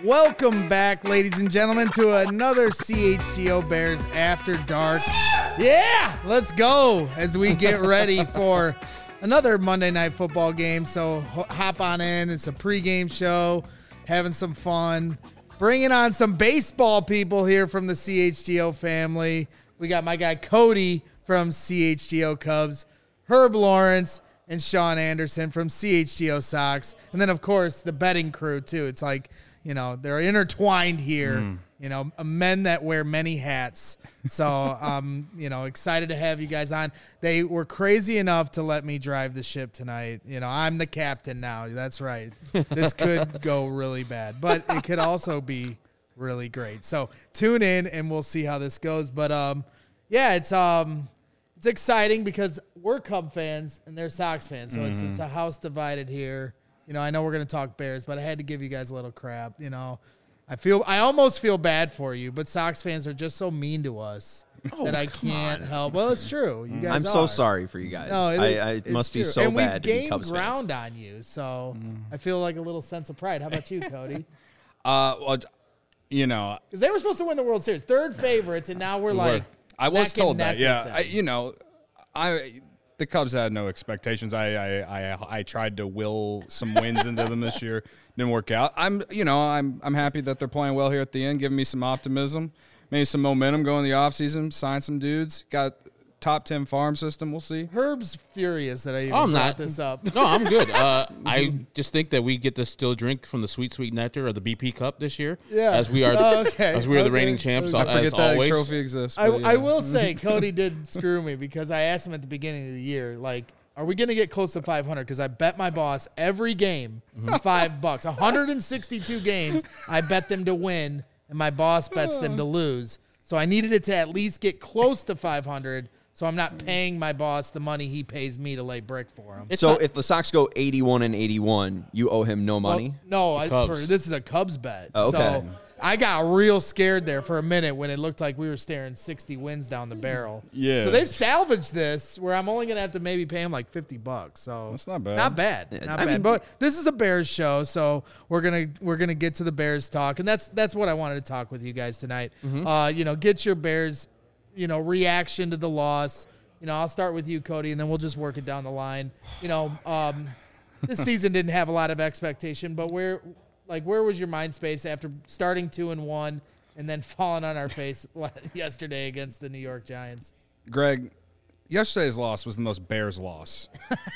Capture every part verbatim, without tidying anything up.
Welcome back, ladies and gentlemen, to another C H G O Bears After Dark. Yeah, let's go as we get ready for another Monday Night Football game. So hop on in. It's a pregame show, having some fun, bringing on some baseball people here from the C H G O family. We got my guy Cody from C H G O Cubs, Herb Lawrence, and Sean Anderson from C H G O Sox. And then, of course, the betting crew, too. It's like, you know, they're intertwined here, mm. you know, men that wear many hats. So, um, you know, excited to have you guys on. They were crazy enough to let me drive the ship tonight. You know, I'm the captain now. That's right. This could go really bad, but it could also be really great. So tune in and we'll see how this goes. But, um, yeah, it's um, it's exciting because we're Cub fans and they're Sox fans. So mm. it's it's a house divided here. You know, I know we're going to talk Bears, but I had to give you guys a little crap. You know, I feel I almost feel bad for you, but Sox fans are just so mean to us oh, that I can't on. help. Well, it's true. You guys I'm are. so sorry for you guys. No, it, I, I it must true. be so and bad to be we've Cubs gained ground fans. on you, so mm. I feel like a little sense of pride. How about you, Cody? uh, well, you know, because they were supposed to win the World Series, third favorites, and now we're like. I was told that. Yeah, I, you know, I. The Cubs had no expectations. I, I I I tried to will some wins into them this year. Didn't work out. I'm you know I'm I'm happy that they're playing well here at the end, giving me some optimism, maybe some momentum going the offseason. Sign some dudes. Got top ten farm system. We'll see. Herb's furious that I even oh, I'm brought not. this up. No, I'm good. Uh, I just think that we get to still drink from the sweet sweet nectar of the B P Cup this year. Yeah, as we are the, oh, okay. as we are okay. the reigning champs. I forget as that always. trophy exists. I, yeah. I will say Cody did screw me because I asked him at the beginning of the year, like, are we going to get close to five hundred? Because I bet my boss every game mm-hmm. five bucks. one hundred sixty-two games, I bet them to win, and my boss bets them to lose. So I needed it to at least get close to five hundred, so I'm not paying my boss the money he pays me to lay brick for him. It's so not, if the Sox go eighty-one and eighty-one, you owe him no money? Well, no, I, for, this is a Cubs bet. Oh, okay. So I got real scared there for a minute when it looked like we were staring sixty wins down the barrel. Yeah. So they've salvaged this where I'm only going to have to maybe pay him like fifty bucks. So that's not bad. Not bad. Not I bad. mean, but this is a Bears show, so we're going to we're going to get to the Bears talk, and that's that's what I wanted to talk with you guys tonight. Mm-hmm. Uh, you know, get your Bears, you know, reaction to the loss. You know, I'll start with you, Cody, and then we'll just work it down the line. You know, um, this season didn't have a lot of expectation, but where Like, where was your mind space after starting two and one and then falling on our face yesterday against the New York Giants? Greg, yesterday's loss was the most Bears loss.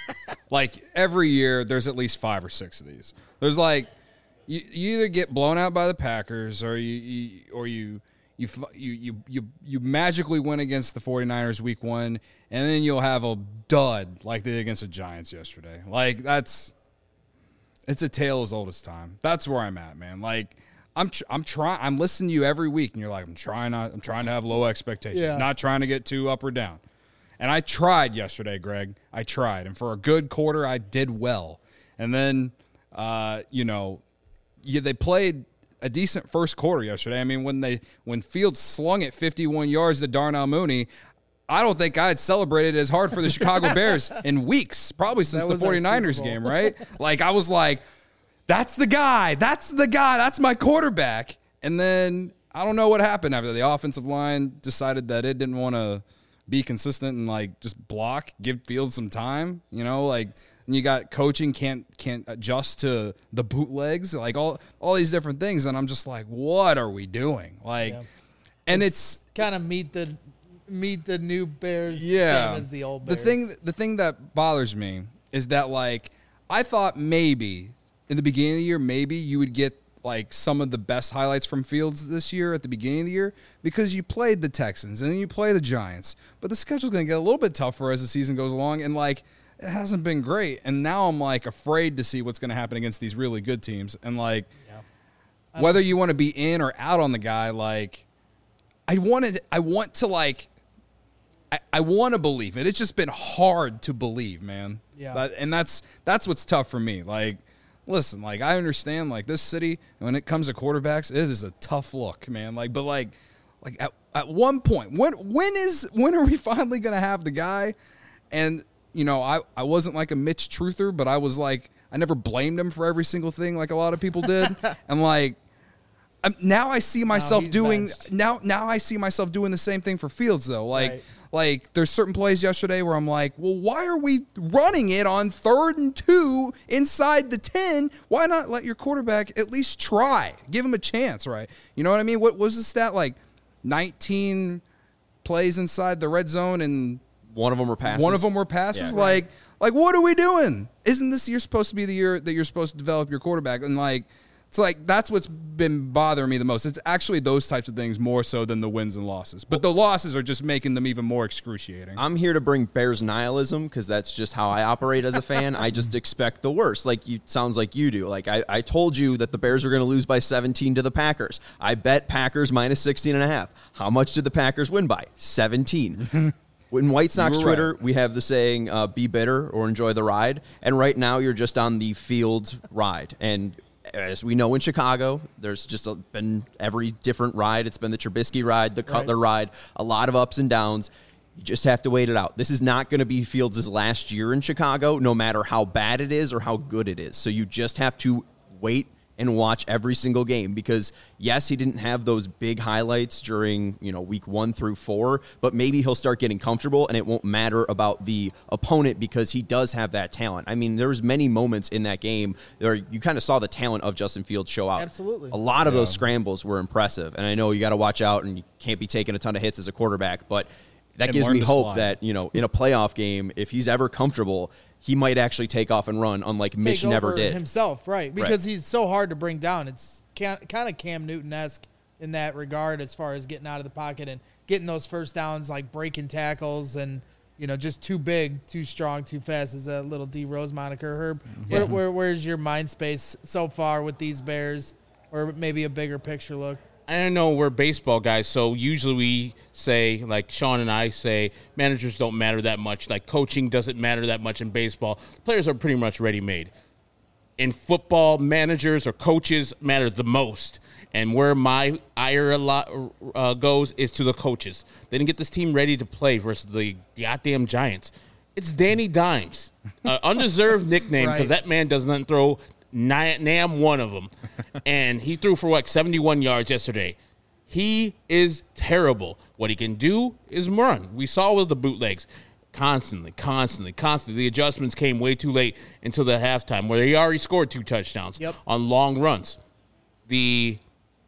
Like, every year, there's at least five or six of these. There's like, you, you either get blown out by the Packers or you, you or you you you you you you magically win against the 49ers week one, and then you'll have a dud like they did against the Giants yesterday. Like, that's. It's a tale as old as time. That's where I'm at, man. Like, I'm tr- I'm trying. I'm listening to you every week, and you're like, I'm trying not. I'm trying to have low expectations, yeah. not trying to get too up or down. And I tried yesterday, Greg. I tried, and for a good quarter, I did well. And then, uh, you know, yeah, they played a decent first quarter yesterday. I mean, when they when Fields slung it fifty-one yards to Darnell Mooney, I don't think I had celebrated as hard for the Chicago Bears in weeks, probably since the 49ers game, right? Like, I was like, that's the guy. That's the guy. That's my quarterback. And then I don't know what happened after the offensive line decided that it didn't want to be consistent and, like, just block, give Fields some time, you know, like, and you got coaching can't can't adjust to the bootlegs, like all all these different things. And I'm just like, what are we doing? Like, yeah. and it's, it's kind of meet the – meet the new Bears yeah. same as the old Bears. The thing the thing that bothers me is that, like, I thought maybe in the beginning of the year, maybe you would get, like, some of the best highlights from Fields this year at the beginning of the year because you played the Texans and then you play the Giants. But the schedule's going to get a little bit tougher as the season goes along, and, like, it hasn't been great. And now I'm, like, afraid to see what's going to happen against these really good teams. And, like, yeah. whether you want to be in or out on the guy, like, I wanted I want to, like, I, I want to believe it. It's just been hard to believe, man. Yeah. That, and that's that's what's tough for me. Like, listen, like, I understand, like, this city, when it comes to quarterbacks, it is a tough look, man. Like, but like, like at, at one point, when when is when are we finally gonna have the guy? And you know, I I wasn't like a Mitch Truther, but I was like, I never blamed him for every single thing like a lot of people did. And like, Um, now I see myself he's doing benched. now. Now I see myself doing the same thing for Fields though. Like, Right. like there's certain plays yesterday where I'm like, well, why are we running it on third and two inside the ten? Why not let your quarterback at least try? Give him a chance, right? You know what I mean? What was the stat like? nineteen plays inside the red zone and One of them were passes. one of them were passes. Yeah. Like, like what are we doing? Isn't this year supposed to be the year that you're supposed to develop your quarterback? And like, it's like that's what's been bothering me the most. It's actually those types of things more so than the wins and losses. But the losses are just making them even more excruciating. I'm here to bring Bears nihilism because that's just how I operate as a fan. I just expect the worst. Like you, sounds like you do. Like I, I told you that the Bears are going to lose by seventeen to the Packers. I bet Packers minus sixteen and a half. How much did the Packers win by? seventeen. In White Sox You were Twitter, right. we have the saying, uh, be bitter or enjoy the ride. And right now you're just on the field ride. And as we know in Chicago, there's just a, been every different ride. It's been the Trubisky ride, the Cutler ride, a lot of ups and downs. You just have to wait it out. This is not going to be Fields' last year in Chicago, no matter how bad it is or how good it is. So you just have to wait and watch every single game because, yes, he didn't have those big highlights during, you know, week one through four, but maybe he'll start getting comfortable and it won't matter about the opponent because he does have that talent. I mean, there was many moments in that game where you kind of saw the talent of Justin Fields show out. Absolutely. A lot of those scrambles were impressive, and I know you got to watch out and you can't be taking a ton of hits as a quarterback, but that And gives learn me to hope slide. that, you know, in a playoff game, if he's ever comfortable, he might actually take off and run, unlike Mitch Take never over did. himself, right? Because he's so hard to bring down. It's kind of Cam Newton-esque in that regard as far as getting out of the pocket and getting those first downs, like breaking tackles and, you know, just too big, too strong, too fast is a little D Rose moniker. Herb, where, where, where's your mind space so far with these Bears, or maybe a bigger picture look? I don't know, we're baseball guys, so usually we say, like Sean and I say, managers don't matter that much. Like coaching doesn't matter that much in baseball. Players are pretty much ready-made. In football, managers or coaches matter the most. And where my ire a lot uh, goes is to the coaches. They didn't get this team ready to play versus the goddamn Giants. It's Danny Dimes, uh, undeserved nickname because Right. that man does not throw Nam Nam one of them, and he threw for what seventy-one yards yesterday. He is terrible. What he can do is run. We saw with the bootlegs, constantly, constantly, constantly. The adjustments came way too late until the halftime, where he already scored two touchdowns Yep. on long runs. The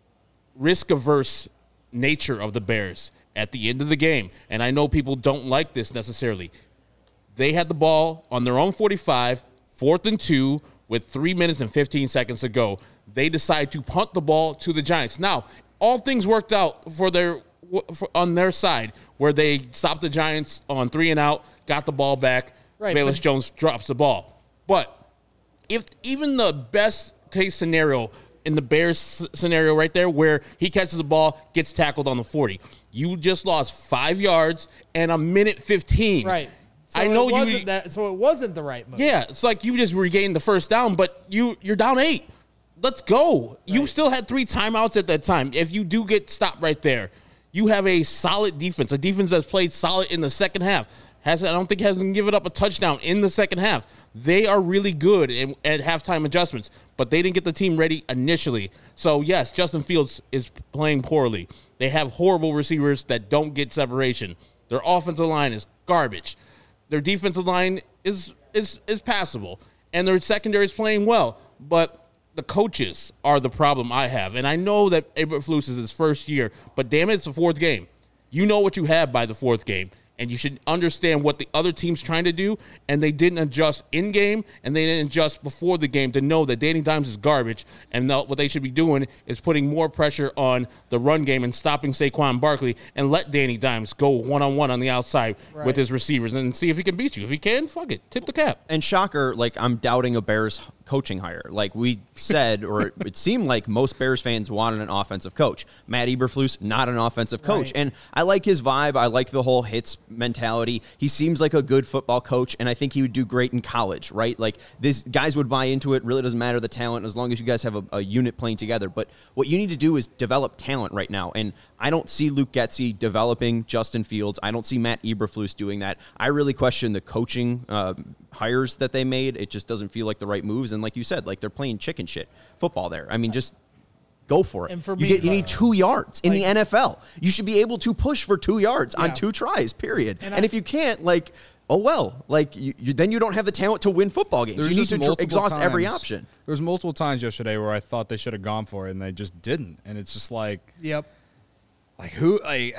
risk-averse nature of the Bears at the end of the game, and I know people don't like this necessarily. They had the ball on their own forty-five, fourth and two. With three minutes and fifteen seconds to go, they decide to punt the ball to the Giants. Now, all things worked out for their for, on their side, where they stopped the Giants on three and out, got the ball back. Right, Bayless but- Jones drops the ball. But if even the best case scenario in the Bears s- scenario right there, where he catches the ball, gets tackled on the forty, you just lost five yards and a minute fifteen. Right. So I know it wasn't you. that. So it wasn't the right move. Yeah, it's like you just regained the first down, but you you're down eight. Let's go. You still had three timeouts at that time. If you do get stopped right there, you have a solid defense, a defense that's played solid in the second half. Has I don't think hasn't given up a touchdown in the second half. They are really good in, at halftime adjustments, but they didn't get the team ready initially. So yes, Justin Fields is playing poorly. They have horrible receivers that don't get separation. Their offensive line is garbage. Their defensive line is is is passable, and their secondary is playing well. But the coaches are the problem I have, and I know that Eberflus is his first year, but damn it, it's the fourth game. You know what you have by the fourth game, and you should understand what the other team's trying to do, and they didn't adjust in game, and they didn't adjust before the game to know that Danny Dimes is garbage, and now what they should be doing is putting more pressure on the run game and stopping Saquon Barkley and let Danny Dimes go one-on-one on the outside Right. with his receivers and see if he can beat you. If he can, fuck it, tip the cap. And shocker, like I'm doubting a Bears coaching hire. Like we said, or it seemed like most Bears fans wanted an offensive coach. Matt Eberflus, not an offensive coach. Right. And I like his vibe. I like the whole hits mentality. He seems like a good football coach, and I think he would do great in college, right? Like these guys would buy into it. Really doesn't matter the talent as long as you guys have a, a unit playing together. But what you need to do is develop talent right now. And I don't see Luke Getsy developing Justin Fields. I don't see Matt Eberflus doing that. I really question the coaching uh, hires that they made. It just doesn't feel like the right moves. And like you said, like they're playing chicken shit football there. I mean, just go for it. And for you, me, get, you need two yards in like- the N F L. You should be able to push for two yards Yeah. on two tries, period. And And, I- if you can't, like, oh, well, like, you, you, then you don't have the talent to win football games. There's you need just to tr- multiple exhaust every times- option. There was multiple times yesterday where I thought they should have gone for it, and they just didn't. And it's just like, Yep. like who, like,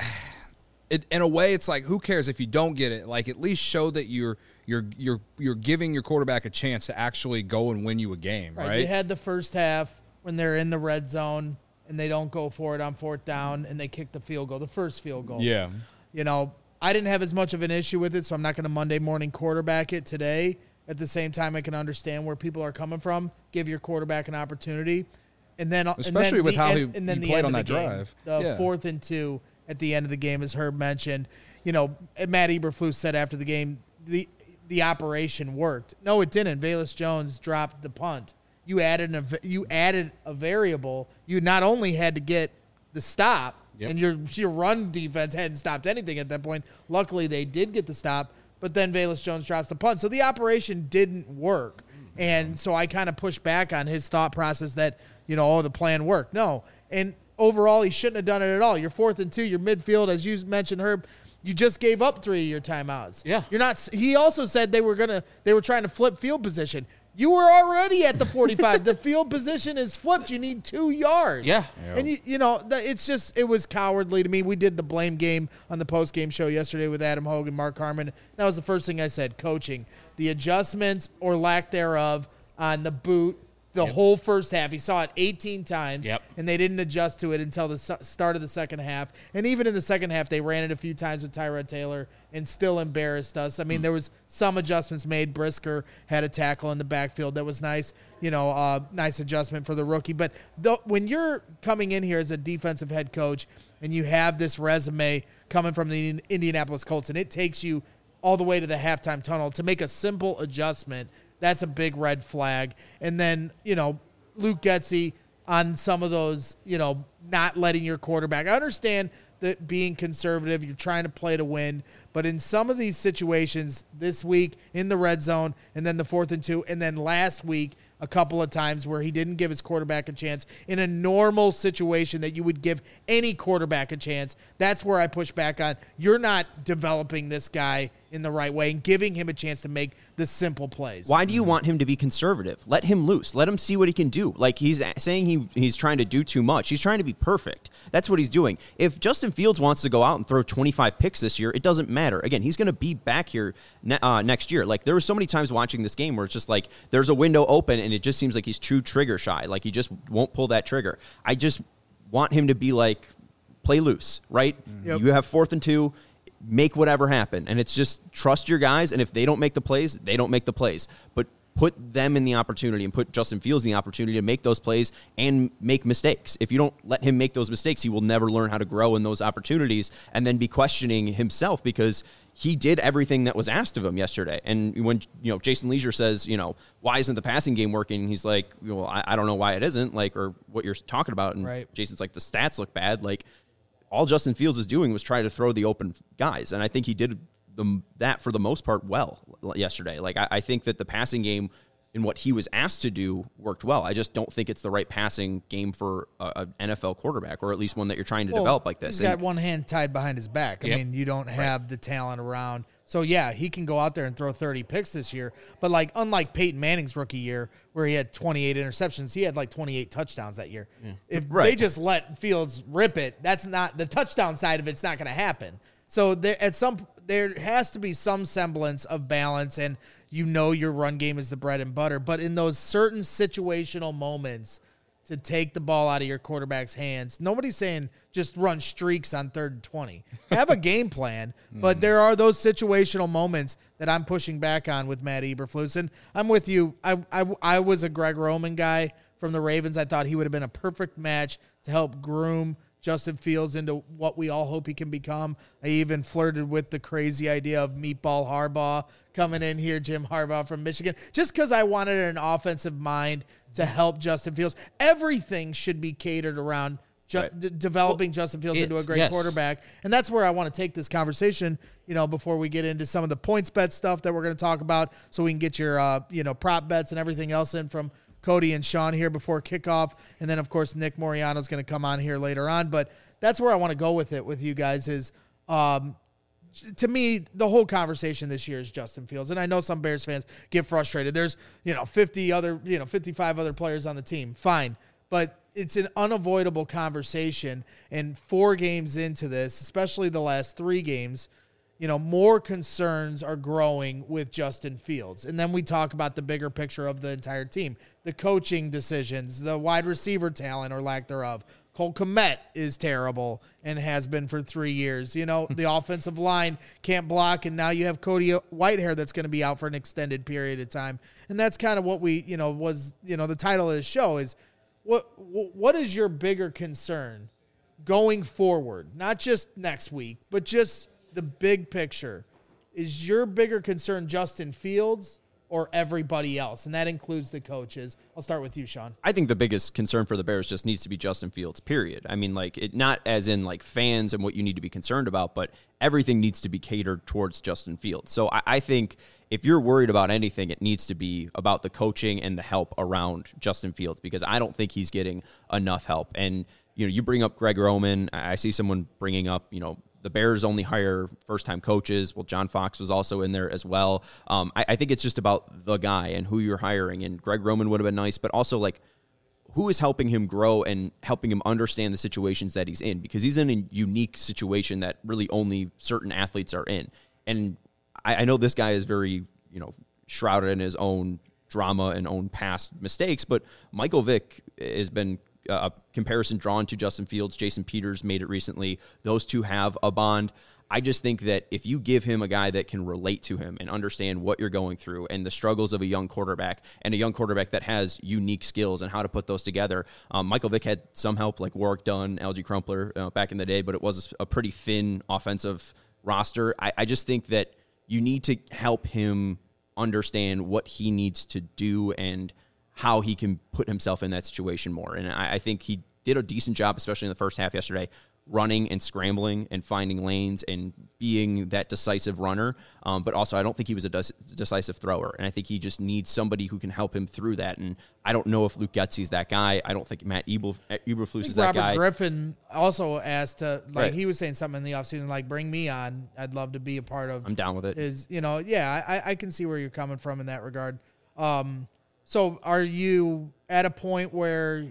it, in a way, it's like, who cares if you don't get it? Like, at least show that you're you're you're you're giving your quarterback a chance to actually go and win you a game, right? Right. They had the first half when they're in the red zone and they don't go for it on fourth down and they kick the field goal, the first field goal. yeah. You know, I didn't have as much of an issue with it, so I'm not going to Monday morning quarterback it today. At the same time, I can understand where people are coming from. Give your quarterback an opportunity. And then, Especially and then with the how end, he- and then he the played end on of the that game, drive. The Yeah. fourth and two at the end of the game, as Herb mentioned. You know, Matt Eberflus said after the game, the the operation worked. No, it didn't. Velus Jones dropped the punt. You added a you added a variable. You not only had to get the stop, Yep. and your your run defense hadn't stopped anything at that point. Luckily, they did get the stop, but then Velus Jones drops the punt. So the operation didn't work. And so I kind of pushed back on his thought process that, you know, oh, the plan worked. No. And overall, he shouldn't have done it at all. You're fourth and two, your midfield, as you mentioned, Herb, you just gave up three of your timeouts. Yeah. You're not, he also said they were going to, they were trying to flip field position. You were already at the forty-five. The field position is flipped. You need two yards. Yeah. And, you, you know, that- it's just, it was cowardly to me. We did the blame game on the post-game show yesterday with Adam Hogan, Mark Harmon. That was the first thing I said, coaching. The adjustments or lack thereof on the boot the Yep. whole first half. He saw it eighteen times, Yep. and they didn't adjust to it until the su- start of the second half. And even in the second half, they ran it a few times with Tyrod Taylor and still embarrassed us. I mean, there was some adjustments made. Brisker had a tackle in the backfield that was nice, you know, uh, nice adjustment for the rookie. But the, when you're coming in here as a defensive head coach and you have this resume coming from the Indianapolis Colts, and it takes you all the way to the halftime tunnel to make a simple adjustment, that's a big red flag. And then, you know, Luke Getsy on some of those, you know, not letting your quarterback. I understand that being conservative, you're trying to play to win, but in some of these situations this week in the red zone and then the fourth and two, and then last week a couple of times where he didn't give his quarterback a chance in a normal situation that you would give any quarterback a chance, that's where I push back on. You're not developing this guy in the right way and giving him a chance to make the simple plays. Why do you want him to be conservative? Let him loose. Let him see what he can do. Like, he's saying he he's trying to do too much. He's trying to be perfect. That's what he's doing. If Justin Fields wants to go out and throw twenty-five picks this year, it doesn't matter. Again, he's going to be back here ne- uh, next year. Like, there were so many times watching this game where it's just like there's a window open and it just seems like he's too trigger shy. Like, he just won't pull that trigger. I just want him to be like, play loose, right? Yep. You have fourth and two. Make whatever happen. And it's just trust your guys. And if they don't make the plays, they don't make the plays. But put them in the opportunity and put Justin Fields in the opportunity to make those plays and make mistakes. If you don't let him make those mistakes, he will never learn how to grow in those opportunities and then be questioning himself because he did everything that was asked of him yesterday. And when, you know, Jason Leisure says, you know, why isn't the passing game working? He's like, well, I, I don't know why it isn't, like, or what you're talking about. And Right. Jason's like, the stats look bad. Like, all Justin Fields is doing was try to throw the open guys. And I think he did the, that for the most part well yesterday. Like, I, I think that the passing game in what he was asked to do worked well. I just don't think it's the right passing game for an N F L quarterback, or at least one that you're trying to Well, develop like this. He's got And- one hand tied behind his back. I Yep. mean, you don't have the talent around. So, yeah, he can go out there and throw thirty picks this year. But, like, unlike Peyton Manning's rookie year where he had twenty-eight interceptions, he had, like, twenty-eight touchdowns that year. If Right. they just let Fields rip it, that's not – the touchdown side of it's not going to happen. So, there at some there has to be some semblance of balance, and you know your run game is the bread and butter. But in those certain situational moments – to take the ball out of your quarterback's hands. Nobody's saying just run streaks on third and twenty. Have a game plan, but there are those situational moments that I'm pushing back on with Matt Eberflus. And I'm with you. I, I, I was a Greg Roman guy from the Ravens. I thought he would have been a perfect match to help groom Justin Fields into what we all hope he can become. I even flirted with the crazy idea of Meatball Harbaugh coming in here, Jim Harbaugh from Michigan, just because I wanted an offensive mind to help Justin Fields. Everything should be catered around ju- Right. d- developing Well, Justin Fields into a it's- great yes. quarterback. And that's where I want to take this conversation, you know, before we get into some of the points bet stuff that we're going to talk about, so we can get your, uh, you know, prop bets and everything else in from Cody and Sean here before kickoff. And then, of course, Nick Moriano is going to come on here later on. But that's where I want to go with it with you guys is, um, to me, the whole conversation this year is Justin Fields. And I know some Bears fans get frustrated. There's, you know, fifty other, you know, fifty-five other players on the team. Fine. But it's an unavoidable conversation. And four games into this, especially the last three games, you know, more concerns are growing with Justin Fields. And then we talk about the bigger picture of the entire team, the coaching decisions, the wide receiver talent or lack thereof. Cole Kmet is terrible and has been for three years. You know, the offensive line can't block, and now you have Cody Whitehair that's going to be out for an extended period of time. And that's kind of what we, you know, was, you know, the title of the show is what what is your bigger concern going forward? Not just next week, but just the big picture. Is your bigger concern Justin Fields or everybody else? And that includes the coaches. I'll start with you, Sean. I think the biggest concern for the Bears just needs to be Justin Fields, period. I mean, like, it not as in, like, fans and what you need to be concerned about, but everything needs to be catered towards Justin Fields. So I, I think if you're worried about anything, it needs to be about the coaching and the help around Justin Fields, because I don't think he's getting enough help. And, you know, you bring up Greg Roman. I see someone bringing up, you know, the Bears only hire first-time coaches. Well, John Fox was also in there as well. Um, I, I think it's just about the guy and who you're hiring. And Greg Roman would have been nice, but also, like, who is helping him grow and helping him understand the situations that he's in? Because he's in a unique situation that really only certain athletes are in. And I, I know this guy is very, you know, shrouded in his own drama and own past mistakes, but Michael Vick has been a comparison drawn to Justin Fields. Jason Peters made it recently. Those two have a bond. I just think that if you give him a guy that can relate to him and understand what you're going through and the struggles of a young quarterback, and a young quarterback that has unique skills and how to put those together. Um, Michael Vick had some help, like Warwick Dunn, L G Crumpler uh, back in the day, but it was a pretty thin offensive roster. I, I just think that you need to help him understand what he needs to do and how he can put himself in that situation more. And I, I think he did a decent job, especially in the first half yesterday, running and scrambling and finding lanes and being that decisive runner. Um, but also, I don't think he was a des- decisive thrower. And I think he just needs somebody who can help him through that. And I don't know if Luke Getsy's that guy. I don't think Matt Eberflus Eberflus is that Robert guy. Robert Griffin also asked to, like, Right. he was saying something in the offseason, like, bring me on. I'd love to be a part of I'm down with it. Is, you know, yeah, I, I can see where you're coming from in that regard. Um, so are you at a point where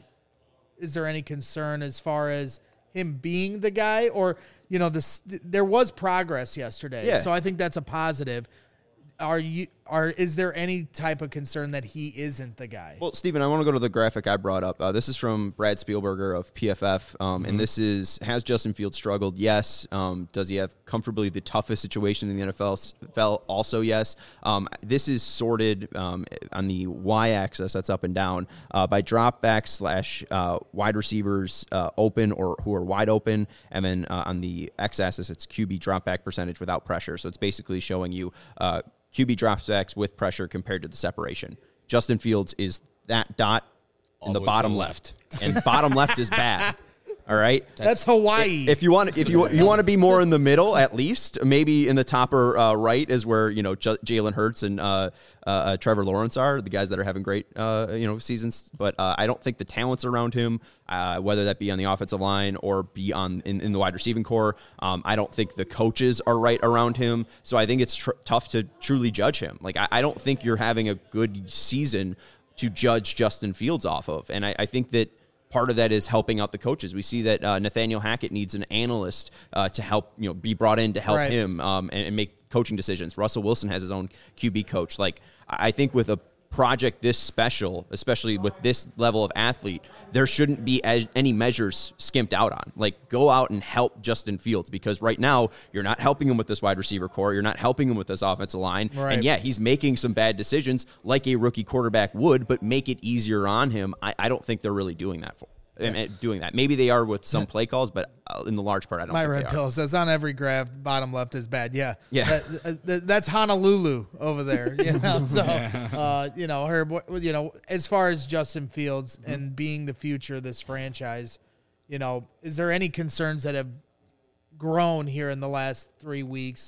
is there any concern as far as him being the guy, or, you know, this, there was progress yesterday. Yeah. So I think that's a positive. Are you, are, is there any type of concern that he isn't the guy? Well, Steven, I want to go to the graphic I brought up. Uh, this is from Brad Spielberger of P F F, um, mm-hmm. and this is, has Justin Fields struggled? Yes. Um, does he have comfortably the toughest situation in the N F L? Also, yes. Um, this is sorted um, on the y-axis, that's up and down, uh, by dropback slash uh, wide receivers uh, open or who are wide open, and then uh, on the x-axis, it's Q B dropback percentage without pressure. So it's basically showing you uh, Q B dropbacks with pressure compared to the separation. Justin Fields is that dot in All the the way bottom to the left, and bottom left is bad. All right, That's Hawaii. If you want, if you you want to be more in the middle, at least maybe in the top or uh, right is where, you know, J- Jalen Hurts and uh, uh, uh, Trevor Lawrence are, the guys that are having great uh, you know seasons. But uh, I don't think the talents around him, uh, whether that be on the offensive line or be on in, in the wide receiving core, um, I don't think the coaches are right around him. So I think it's tr- tough to truly judge him. Like I, I don't think you're having a good season to judge Justin Fields off of, and I, I think that. Part of that is helping out the coaches. We see that uh, Nathaniel Hackett needs an analyst uh, to help, you know, be brought in to help Right. him um, and, and make coaching decisions. Russell Wilson has his own Q B coach. Like, I think with a project this special, especially with this level of athlete, there shouldn't be as, any measures skimped out on. Like, go out and help Justin Fields, because right now you're not helping him with this wide receiver core. You're not helping him with this offensive line. Right. And yeah, he's making some bad decisions like a rookie quarterback would, but make it easier on him. I, I don't think they're really doing that for and, and doing that. Maybe they are with some play calls, but uh, in the large part, I don't My think red they are. pill says on every graph, bottom left is bad. Yeah. Yeah. That, uh, th- that's Honolulu over there. You know, so, uh, you know, Herb, you know, as far as Justin Fields and being the future of this franchise, you know, is there any concerns that have grown here in the last three weeks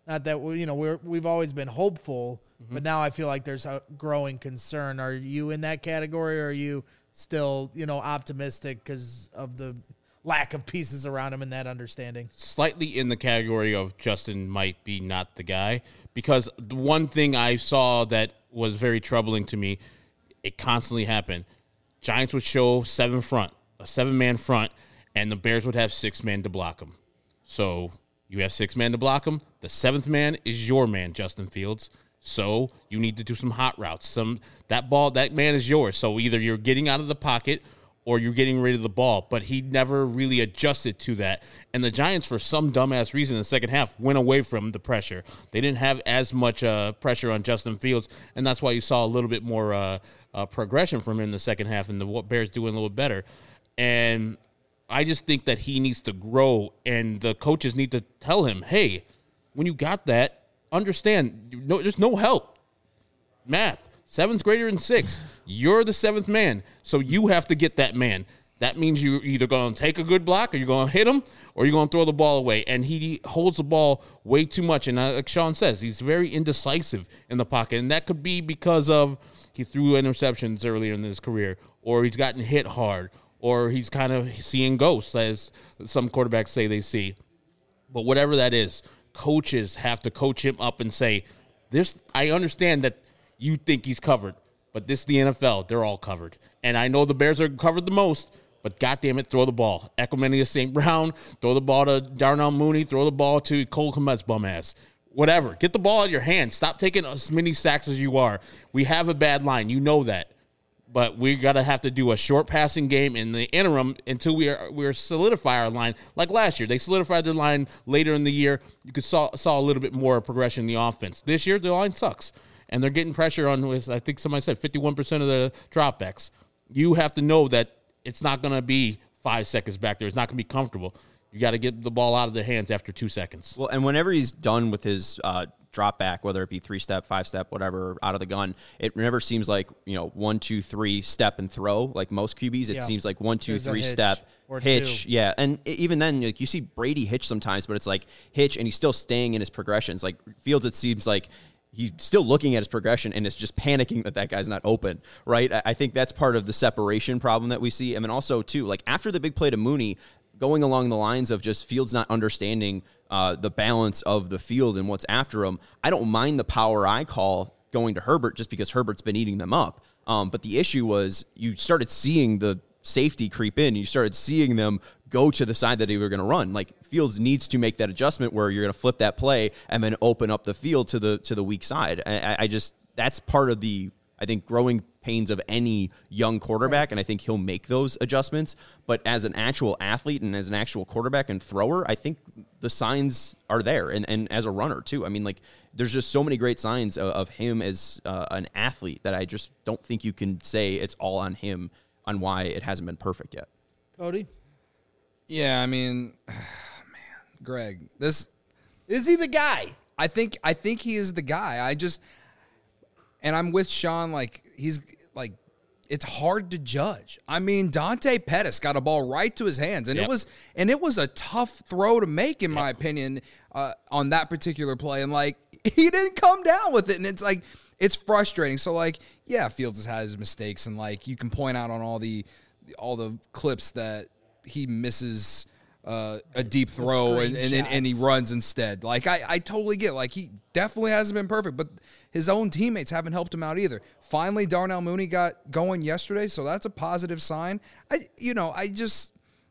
Not that we, you know we're we've always been hopeful, Mm-hmm. but now I feel like there's a growing concern. Are you in that category, or are you still you know optimistic because of the lack of pieces around him and that understanding? Slightly in the category of Justin might be not the guy, because the one thing I saw that was very troubling to me, it constantly happened. Giants would show seven front, a seven-man front, and the Bears would have six men to block them. So you have six men to block them. The seventh man is your man, Justin Fields. So you need to do some hot routes. Some that ball, that man is yours. So either you're getting out of the pocket or you're getting rid of the ball. But he never really adjusted to that. And the Giants, for some dumbass reason, in the second half, went away from the pressure. They didn't have as much uh, pressure on Justin Fields, and that's why you saw a little bit more uh, uh, progression from him in the second half, and the Bears doing a little better. And I just think that he needs to grow, and the coaches need to tell him, hey, when you got that, understand, you know, there's no help. Math, seven's greater than six. You're the seventh man, so you have to get that man. That means you're either going to take a good block, or you're going to hit him, or you're going to throw the ball away. And he holds the ball way too much. And like Sean says, he's very indecisive in the pocket. And that could be because of he threw interceptions earlier in his career, or he's gotten hit hard, or he's kind of seeing ghosts, as some quarterbacks say they see. But whatever that is, coaches have to coach him up and say, "This. I understand that you think he's covered, but this is the N F L. They're all covered. And I know the Bears are covered the most, but goddamn it, throw the ball. Equimania Saint Brown, throw the ball to Darnell Mooney, throw the ball to Cole Kmet's bum ass. Whatever. Get the ball out of your hands. Stop taking as many sacks as you are. We have a bad line. You know that. But we got to have to do a short passing game in the interim until we are we are solidify our line. Like last year, they solidified their line later in the year. You could saw saw a little bit more progression in the offense. This year, the line sucks, and they're getting pressure on. I think somebody said fifty-one percent of the dropbacks. You have to know that it's not going to be five seconds back there. It's not going to be comfortable. You got to get the ball out of the hands after two seconds. Well, and whenever he's done with his uh, drop back, whether it be three step, five step, whatever, out of the gun, it never seems like, you know, one, two, three step and throw like most Q Bs. It Yeah. seems like one, two, There's a three hitch step, or hitch. two. Yeah. And even then, like you see Brady hitch sometimes, but it's like hitch and he's still staying in his progressions. Like Fields, it seems like he's still looking at his progression and is just panicking that that guy's not open, right? I think that's part of the separation problem that we see. And then also, too, like after the big play to Mooney, going along the lines of just Fields not understanding uh, the balance of the field and what's after him, I don't mind the power I call going to Herbert just because Herbert's been eating them up. Um, but the issue was you started seeing the safety creep in. You started seeing them go to the side that they were going to run. Like Fields needs to make that adjustment where you're going to flip that play and then open up the field to the to the weak side. I, I just that's part of the I think growing pains of any young quarterback, and I think he'll make those adjustments. But as an actual athlete and as an actual quarterback and thrower, I think the signs are there, and, and as a runner too. I mean, like there's just so many great signs of, of him as uh, an athlete that I just don't think you can say it's all on him on why it hasn't been perfect yet. Cody, Yeah, I mean, man, Greg, this is he the guy? I think I think he is the guy. I just and I'm with Sean. Like he's like, it's hard to judge. I mean, Dante Pettis got a ball right to his hands, and Yep. it was and it was a tough throw to make, in my opinion, uh, on that particular play. And like he didn't come down with it, and it's like it's frustrating. So like, yeah, Fields has had his mistakes, and like you can point out on all the all the clips that he misses uh, a deep throw and, and, and, and he screenshots. runs instead. Like, I, I totally get it. Like, he definitely hasn't been perfect, but his own teammates haven't helped him out either. Finally, Darnell Mooney got going yesterday, so that's a positive sign. I, you know, I just,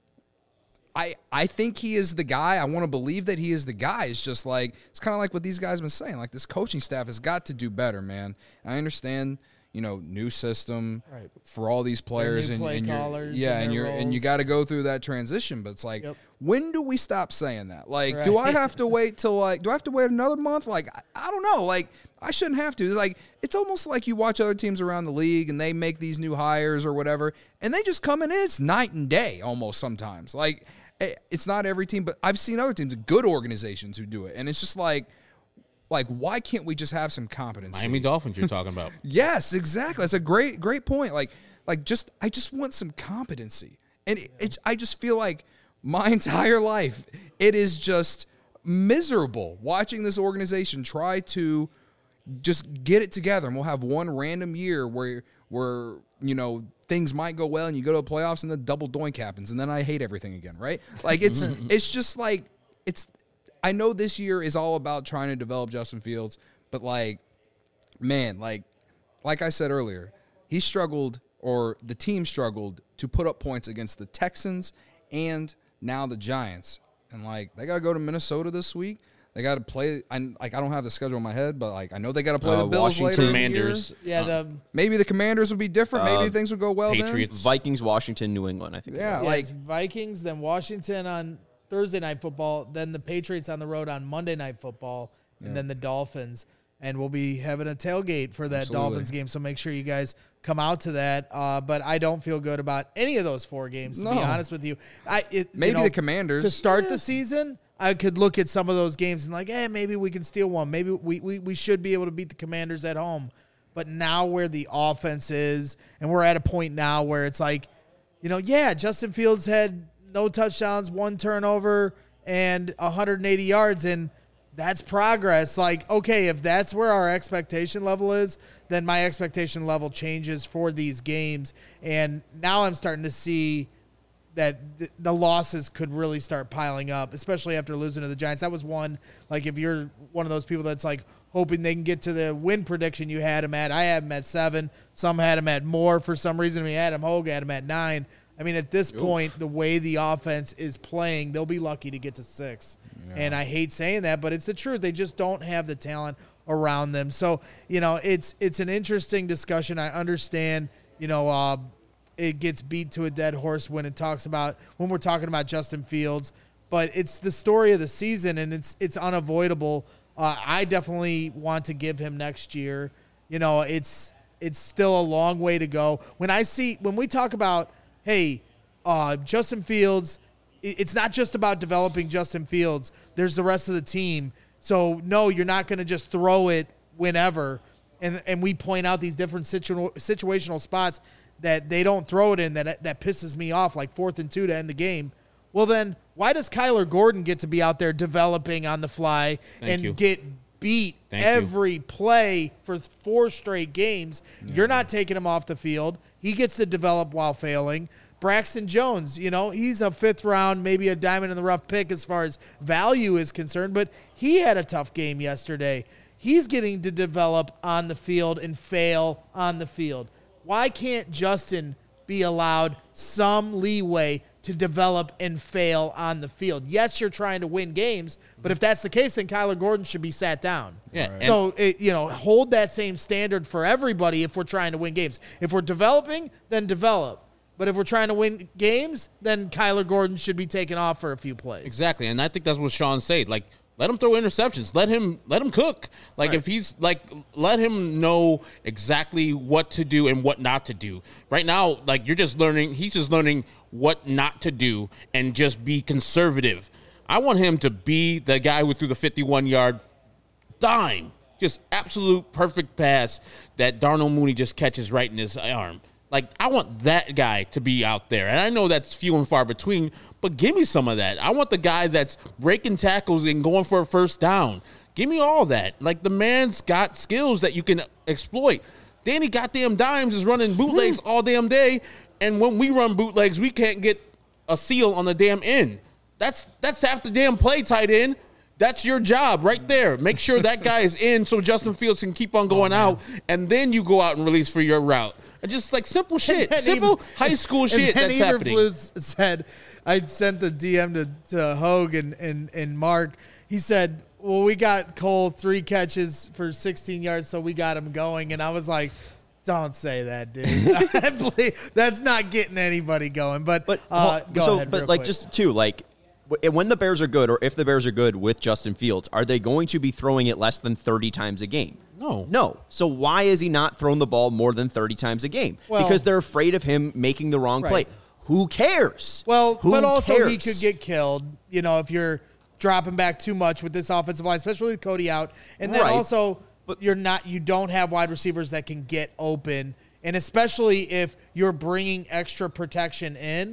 I, I think he is the guy. I want to believe that he is the guy. It's just like, it's kind of like what these guys have been saying. Like, this coaching staff has got to do better, man. I understand, you know, new system Right. for all these players, new and, play and you're, callers yeah, and and their you're and you roles. got to go through that transition. But it's like, Yep. when do we stop saying that? Like, do I Right. have to wait till like, do I have to wait another month? Like, I, I don't know. Like, I shouldn't have to. Like, it's almost like you watch other teams around the league and they make these new hires or whatever, and they just come in and it's night and day almost sometimes. Like, eh, it's not every team, but I've seen other teams, good organizations who do it, and it's just like. Like, why can't we just have some competency? Miami Dolphins you're talking about. Yes, exactly. That's a great, great point. Like, like just I just want some competency, and it, it's I just feel like my entire life it is just miserable watching this organization try to just get it together, and we'll have one random year where where you know things might go well and you go to the playoffs and the double doink happens and then I hate everything again, right? Like it's it's just like it's I know this year is all about trying to develop Justin Fields, but like man, like like I said earlier, he struggled or the team struggled to put up points against the Texans and now the Giants. And like they got to go to Minnesota this week. They got to play. I like I don't have the schedule in my head, but like I know they got to play Uh, the Bills Washington later in the year. Commanders. Yeah, the Maybe the Commanders would be different. Maybe Uh, things would go well Patriots. Vikings, Washington, New England, I think. Yeah, yeah, like it's Vikings, then Washington on Thursday Night Football, then the Patriots on the road on Monday Night Football, and then the Dolphins. And we'll be having a tailgate for that Absolutely. Dolphins game, so make sure you guys come out to that. Uh, but I don't feel good about any of those four games, to No. be honest with you. I it, you Maybe know, the Commanders. to start Yeah. the season. I could look at some of those games and like, hey, maybe we can steal one. Maybe we, we, we should be able to beat the Commanders at home. But now where the offense is, and we're at a point now where it's like, you know, yeah, Justin Fields had no touchdowns, one turnover, and one hundred eighty yards, and that's progress. Like, okay, if that's where our expectation level is, then my expectation level changes for these games. And now I'm starting to see that th- the losses could really start piling up, especially after losing to the Giants. That was one, like if you're one of those people that's like hoping they can get to the win prediction you had him at. I had him at seven. Some had him at more for some reason. We had him Hogue had him at nine. I mean, at this point, the way the offense is playing, they'll be lucky to get to six. And I hate saying that, but it's the truth. They just don't have the talent around them. So, you know, it's it's an interesting discussion. I understand, you know, uh, it gets beat to a dead horse when it talks about when we're talking about Justin Fields, but it's the story of the season and it's it's unavoidable. Uh, I definitely want to give him next year. You know, it's it's still a long way to go. When I see when we talk about, hey, uh, Justin Fields, it, it's not just about developing Justin Fields. There's the rest of the team. So no, you're not going to just throw it whenever. And and we point out these different situ- situational spots that they don't throw it in that that pisses me off, like fourth and two to end the game. Well, then why does Kyler Gordon get to be out there developing on the fly Thank and you. get beat Thank you. every play for four straight games? You're not taking him off the field. He gets to develop while failing. Braxton Jones, you know, he's a fifth round, maybe a diamond in the rough pick as far as value is concerned, but he had a tough game yesterday. He's getting to develop on the field and fail on the field. Why can't Justin be allowed some leeway to develop and fail on the field? Yes, you're trying to win games, but if that's the case, then Kyler Gordon should be sat down. Yeah, and- So, it, you know, hold that same standard for everybody if we're trying to win games. If we're developing, then develop. But if we're trying to win games, then Kyler Gordon should be taken off for a few plays. Exactly, and I think that's what Sean said. Like, let him throw interceptions. Let him let him cook. Like, Right. if he's like, let him know exactly what to do and what not to do. Right now, like you're just learning. He's just learning what not to do and just be conservative. I want him to be the guy who threw the fifty-one yard dime, just absolute perfect pass that Darnell Mooney just catches right in his arm. Like, I want that guy to be out there. And I know that's few and far between, but give me some of that. I want the guy that's breaking tackles and going for a first down. Give me all that. Like, the man's got skills that you can exploit. Danny goddamn Dimes is running bootlegs all damn day, and when we run bootlegs, we can't get a seal on the damn end. That's that's half the damn play, tight end. That's your job right there. Make sure that guy is in so Justin Fields can keep on going out, and then you go out and release for your route. And just like simple shit, And simple Eber- high school and shit then that's Eberflus happening. said, I sent the D M to, to Hogue and, and, and Mark. He said, well, we got Cole three catches for sixteen yards, so we got him going. And I was like, don't say that, dude. Please, that's not getting anybody going. But, But uh, hold- go so, ahead. but real like quick. just too, like w- when the Bears are good, or if the Bears are good with Justin Fields, are they going to be throwing it less than thirty times a game? No. No. So why is he not throwing the ball more than thirty times a game? Well- because they're afraid of him making the wrong Right. play. Who cares? Well, Who but also cares? he could get killed, you know, if you're dropping back too much with this offensive line, especially with Cody out. And then Right. also But- you're not you don't have wide receivers that can get open, and especially if you're bringing extra protection in,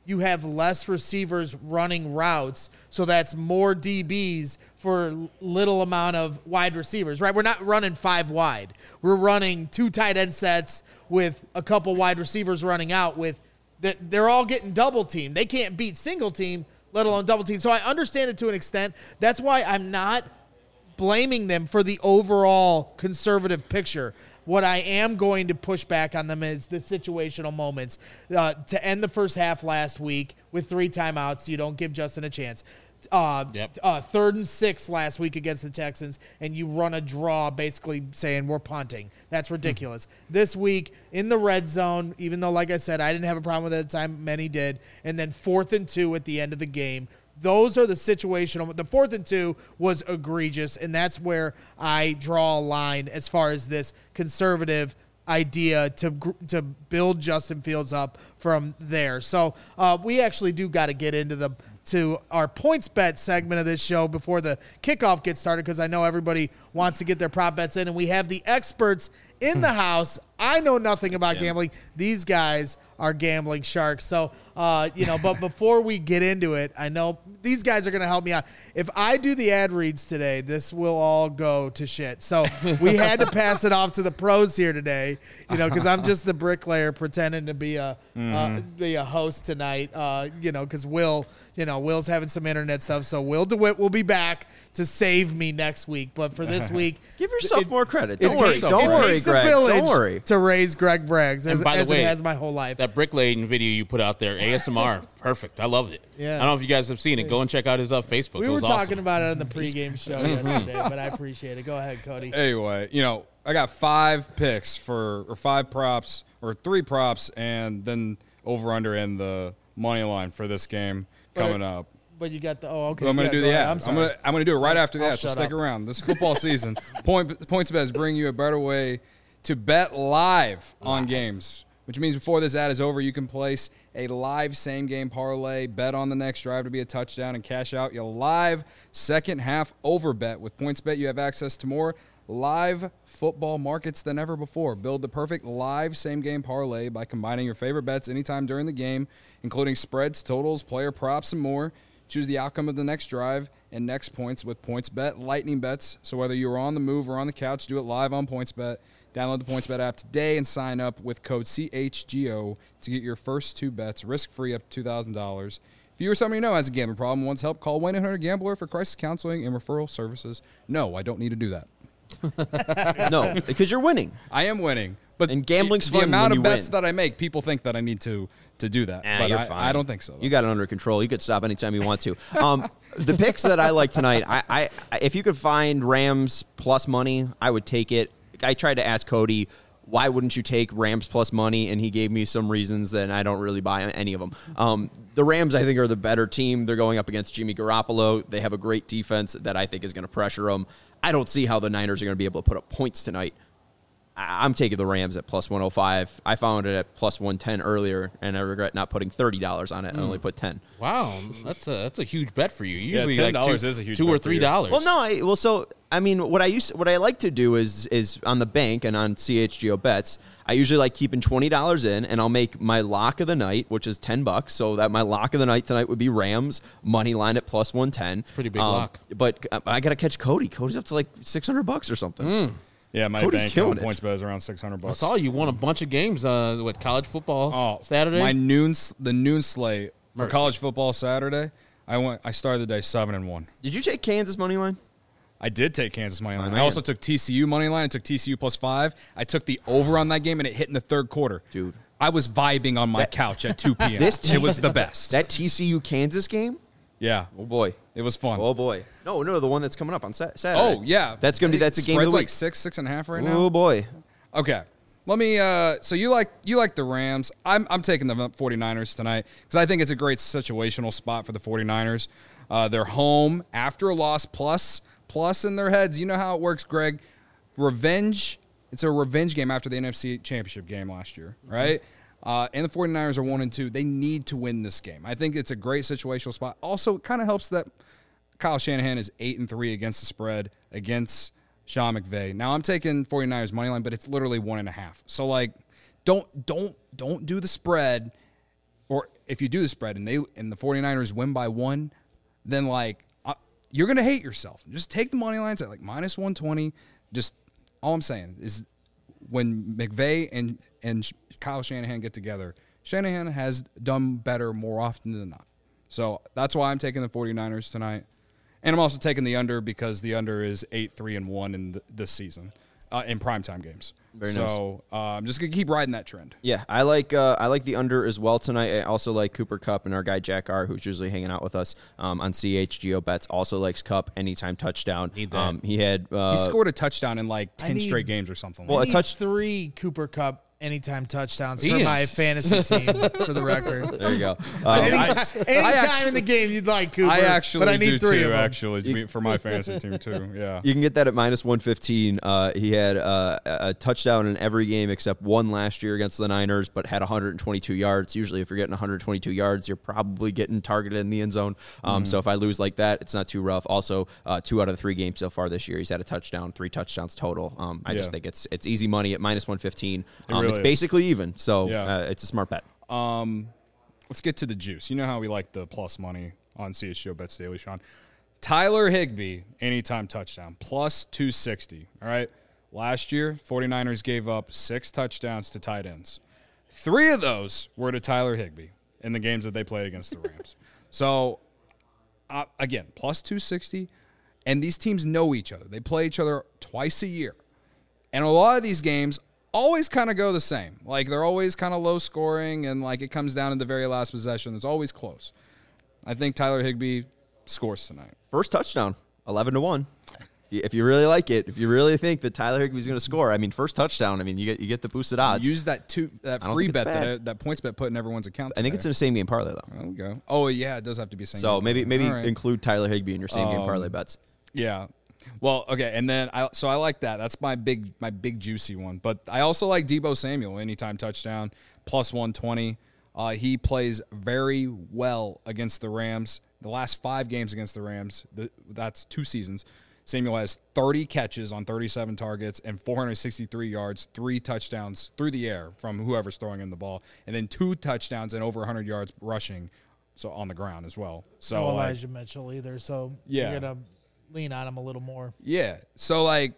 you have less receivers running routes, so that's more D Bs for little amount of wide receivers, right? We're not running five wide. We're running two tight end sets with a couple wide receivers running out with that. They're all getting double teamed. They can't beat single team, let alone double team. So I understand it to an extent. That's why I'm not blaming them for the overall conservative picture. What I am going to push back on them is the situational moments. Uh, to end the first half last week with three timeouts, you don't give Justin a chance. Uh, Yep. uh, third and six last week against the Texans, and you run a draw basically saying we're punting. That's ridiculous. This week in the red zone, even though, like I said, I didn't have a problem with it at the time, many did, and then fourth and two at the end of the game. Those are the situational. The fourth and two was egregious, and that's where I draw a line as far as this conservative idea to gr- to build Justin Fields up from there. So uh, we actually do got to get into the to our points bet segment of this show before the kickoff gets started, because I know everybody wants to get their prop bets in, and we have the experts in the house. I know nothing about gambling. These guys are gambling sharks. So, uh, you know, but before we get into it, I know these guys are going to help me out. If I do the ad reads today, this will all go to shit. So we had to pass it off to the pros here today, you know, because I'm just the bricklayer pretending to be a mm. uh, be a host tonight, uh, you know, because Will, you know, Will's having some internet stuff. So Will DeWitt will be back to save me next week. But for this week, give yourself it, more credit. It Don't worry. Takes, Don't it worry, takes Greg. a village Don't worry. to raise Greg Braggs, as, by the as way, it has my whole life. That bricklaying video you put out there, A S M R, perfect. I loved it. Yeah. I don't know if you guys have seen it. Go and check out his uh, Facebook. We it were was talking awesome. about it on the pregame show yesterday, but I appreciate it. Go ahead, Cody. Anyway, you know, I got five picks for, or five props, or three props, and then over under and the money line for this game coming But- up. But you got the oh okay. So I'm going yeah, to do go the ahead. ad. I'm I'm sorry. going to I'm going to do it right after I'll that. So shut stick up. around. This football season, Point PointsBet bring you a better way to bet live on games, which means before this ad is over, you can place a live same game parlay, bet on the next drive to be a touchdown, and cash out your live second half over bet. With PointsBet, you have access to more live football markets than ever before. Build the perfect live same game parlay by combining your favorite bets anytime during the game, including spreads, totals, player props, and more. Choose the outcome of the next drive and next points with PointsBet Lightning Bets. So whether you're on the move or on the couch, do it live on PointsBet. Download the PointsBet app today and sign up with code C H G O to get your first two bets risk-free up to two thousand dollars. If you or somebody you know has a gambling problem and wants help, call one eight hundred gambler for crisis counseling and referral services. No, I don't need to do that. No, because you're winning. I am winning. But And gambling's the, fun the amount when of you bets win. that I make, people think that I need to to do that. Ah, but you're I, fine. I don't think so. though. You got it under control. You could stop anytime you want to. Um, the picks that I like tonight, I, I, if you could find Rams plus money, I would take it. I tried to ask Cody, why wouldn't you take Rams plus money? And he gave me some reasons, and I don't really buy any of them. Um, the Rams, I think, are the better team. They're going up against Jimmy Garoppolo. They have a great defense that I think is going to pressure them. I don't see how the Niners are going to be able to put up points tonight. I'm taking the Rams at plus one oh five. I found it at plus one ten earlier, and I regret not putting thirty dollars on it. I only put ten. Wow, that's a that's a huge bet for you. Yeah, Usually ten like dollars two, is a huge two bet or for three you. dollars. Well, no, I well, so I mean, what I used, what I like to do is is on the bank and on C H G O bets. I usually like keeping twenty dollars in, and I'll make my lock of the night, which is ten bucks. So that my lock of the night tonight would be Rams money line at plus one ten. Pretty big lock. But uh, I got to catch Cody. Cody's up to like six hundred bucks or something. Yeah, my Cody's bank killing on it. PointsBet is around six hundred I bucks. saw you won a bunch of games. Uh, what college football Oh, Saturday? My noon, s- the noon slate for Mercy. college football Saturday. I went. I started the day seven and one. Did you take Kansas money line? I did take Kansas money line. I man. also took T C U money line. I took T C U plus five. I took the over on that game, and it hit in the third quarter. Dude. I was vibing on my That- couch at two p.m. This it was the best. That T C U Kansas game? yeah, Oh boy. it was fun. Oh boy. No, no, the one that's coming up on Sa- Saturday. oh yeah, That's gonna be that's a game of Spread's the like week. six, six and a half right now. Oh boy. Okay. Let me uh so you like you like the Rams. I'm I'm taking the 49ers tonight because I think it's a great situational spot for the 49ers. Uh, they're home after a loss plus plus in their heads. You know how it works, Greg. Revenge. It's a revenge game after the N F C Championship game last year, right? Uh, and the 49ers are one and two. They need to win this game. I think it's a great situational spot. Also, it kind of helps that Kyle Shanahan is eight and three against the spread against Sean McVay. Now I'm taking 49ers money line, but it's literally one and a half. So like, don't don't don't do the spread or if you do the spread and they and the 49ers win by one, then like uh, you're gonna hate yourself. Just take the money lines at like minus one twenty. Just all I'm saying is when McVay and and Kyle Shanahan get together, Shanahan has done better more often than not. So that's why I'm taking the 49ers tonight. And I'm also taking the under because the under is eight three and one in the, this season uh, in primetime games. Very so uh, I'm just going to keep riding that trend. Yeah, I like uh, I like the under as well tonight. I also like Cooper Kupp, and our guy Jack R, who's usually hanging out with us um, on C H G O Bets, also likes Kupp anytime touchdown. Need that. Um, he had uh, He scored a touchdown in like ten need- straight games or something. Well, like a Need touch- three Cooper Cup anytime touchdowns He for is. my fantasy team, for the record. there you go. I- Um, Anytime, I anytime actually- in the game you'd like Cooper, I actually but I need do three too, of them. actually, to be- for my fantasy team too. Yeah. You can get that at minus one fifteen. Uh, he had uh, a touchdown in every game except one last year against the Niners, but had one hundred twenty-two yards. Usually, if you're getting one hundred twenty-two yards, you're probably getting targeted in the end zone. Um, Mm-hmm. So if I lose like that, it's not too rough. Also, uh, two out of the three games so far this year, he's had a touchdown, three touchdowns total. Um, I Yeah. just think it's it's easy money at minus one fifteen. Um, really it's is. basically even, so Yeah. uh, it's a smart bet. Let's get to the juice. You know how we like the plus money on C H G O Bets Daily, Sean. Tyler Higbee, anytime touchdown, plus two sixty. All right. Last year, 49ers gave up six touchdowns to tight ends. Three of those were to Tyler Higbee in the games that they played against the Rams. So, uh, again, plus two sixty. And these teams know each other. They play each other twice a year. And a lot of these games always kind of go the same. Like, they're always kind of low scoring, and, like, it comes down to the very last possession. It's always close. I think Tyler Higbee scores tonight. First touchdown, eleven to one. If you, if you really like it, if you really think that Tyler Higbee's going to score, I mean, first touchdown, I mean, you get you get the boosted odds. Use that two that I don't free think it's bet that bad. that points bet put in everyone's account. I think it's in today. a same game parlay though. There we go. Oh yeah, it does have to be same. So game. maybe maybe All right. include Tyler Higbee in your same game Um, parlay bets. Yeah. Well, okay, and then I so I like that. That's my big my big juicy one. But I also like Deebo Samuel anytime touchdown plus one twenty. Uh, he plays very well against the Rams. The last five games against the Rams, the, that's two seasons. Samuel has thirty catches on thirty-seven targets and four hundred sixty-three yards, three touchdowns through the air from whoever's throwing him the ball, and then two touchdowns and over one hundred yards rushing, so on the ground as well. So No like, Elijah Mitchell either, so Yeah. you're gonna lean on him a little more. yeah. So like,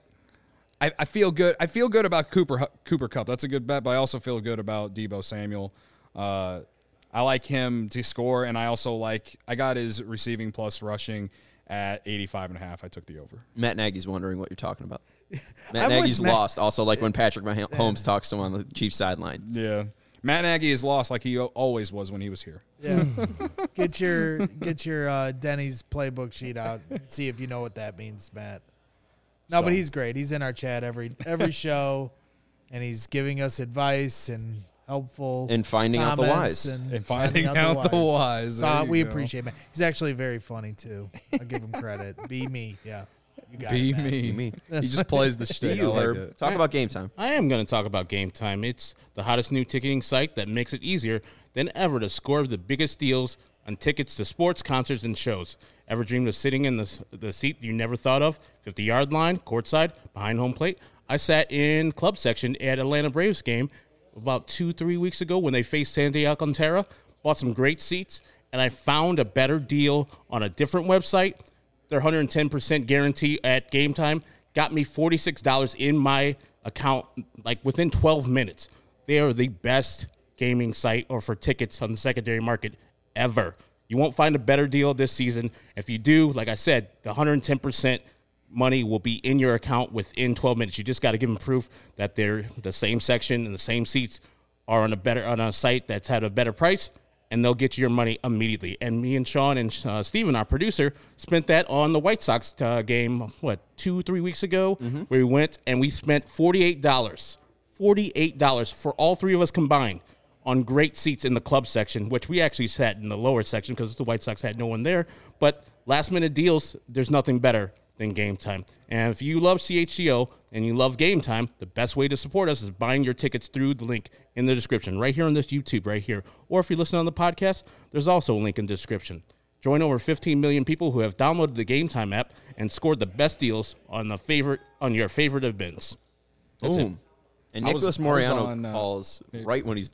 I, I feel good. I feel good about Cooper Cooper Kupp. That's a good bet, but I also feel good about Deebo Samuel. Uh, I like him to score, and I also like I got his receiving plus rushing at eighty-five and a half. I took the over. Matt Nagy's wondering what you're talking about. I'm Matt with Nagy's Matt. lost. Also, like when Patrick Mahomes talks to him on the Chiefs sideline. Yeah. Matt Nagy is lost like he o- always was when he was here. Yeah, get your get your uh, Denny's playbook sheet out. And see if you know what that means, Matt. No, So- but he's great. He's in our chat every every show, and he's giving us advice and helpful And finding out the comments whys. and, And finding out the whys. So There uh, you we go. appreciate it. He's actually very funny too. I'll give him credit. Be me, yeah. You got Be it, Matt. me. me. He just plays the Be shtick. I you, like Herb. it. Talk about game time. I am going to talk about Game Time. It's the hottest new ticketing site that makes it easier than ever to score the biggest deals on tickets to sports, concerts, and shows. Ever dreamed of sitting in the, the seat you never thought of? fifty-yard line, courtside, behind home plate? I sat in club section at Atlanta Braves game about two, three weeks ago when they faced San Diego Alcantara. Bought some great seats, and I found a better deal on a different website. Their one hundred ten percent guarantee at Game Time got me forty-six dollars in my account like within twelve minutes. They are the best gaming site or for tickets on the secondary market ever. You won't find a better deal this season. If you do, like I said, the one hundred ten percent money will be in your account within twelve minutes. You just got to give them proof that they're the same section and the same seats are on a better on a site that's at a better price, and they'll get you your money immediately. And me and Sean and uh, Steven, our producer, spent that on the White Sox uh, game, what, two, three weeks ago, Mm-hmm. where we went and we spent forty-eight dollars. forty-eight dollars for all three of us combined on great seats in the club section, which we actually sat in the lower section because the White Sox had no one there. But last-minute deals, there's nothing better than Game Time. And if you love C H G O and you love Game Time, the best way to support us is buying your tickets through the link in the description, right here on this YouTube, right here. Or if you listen on the podcast, there's also a link in the description. Join over fifteen million people who have downloaded the Game Time app and scored the best deals on the favorite on your favorite events. That's it. Boom. And I was- Nicholas I was Moriano on, uh, calls right when he's done.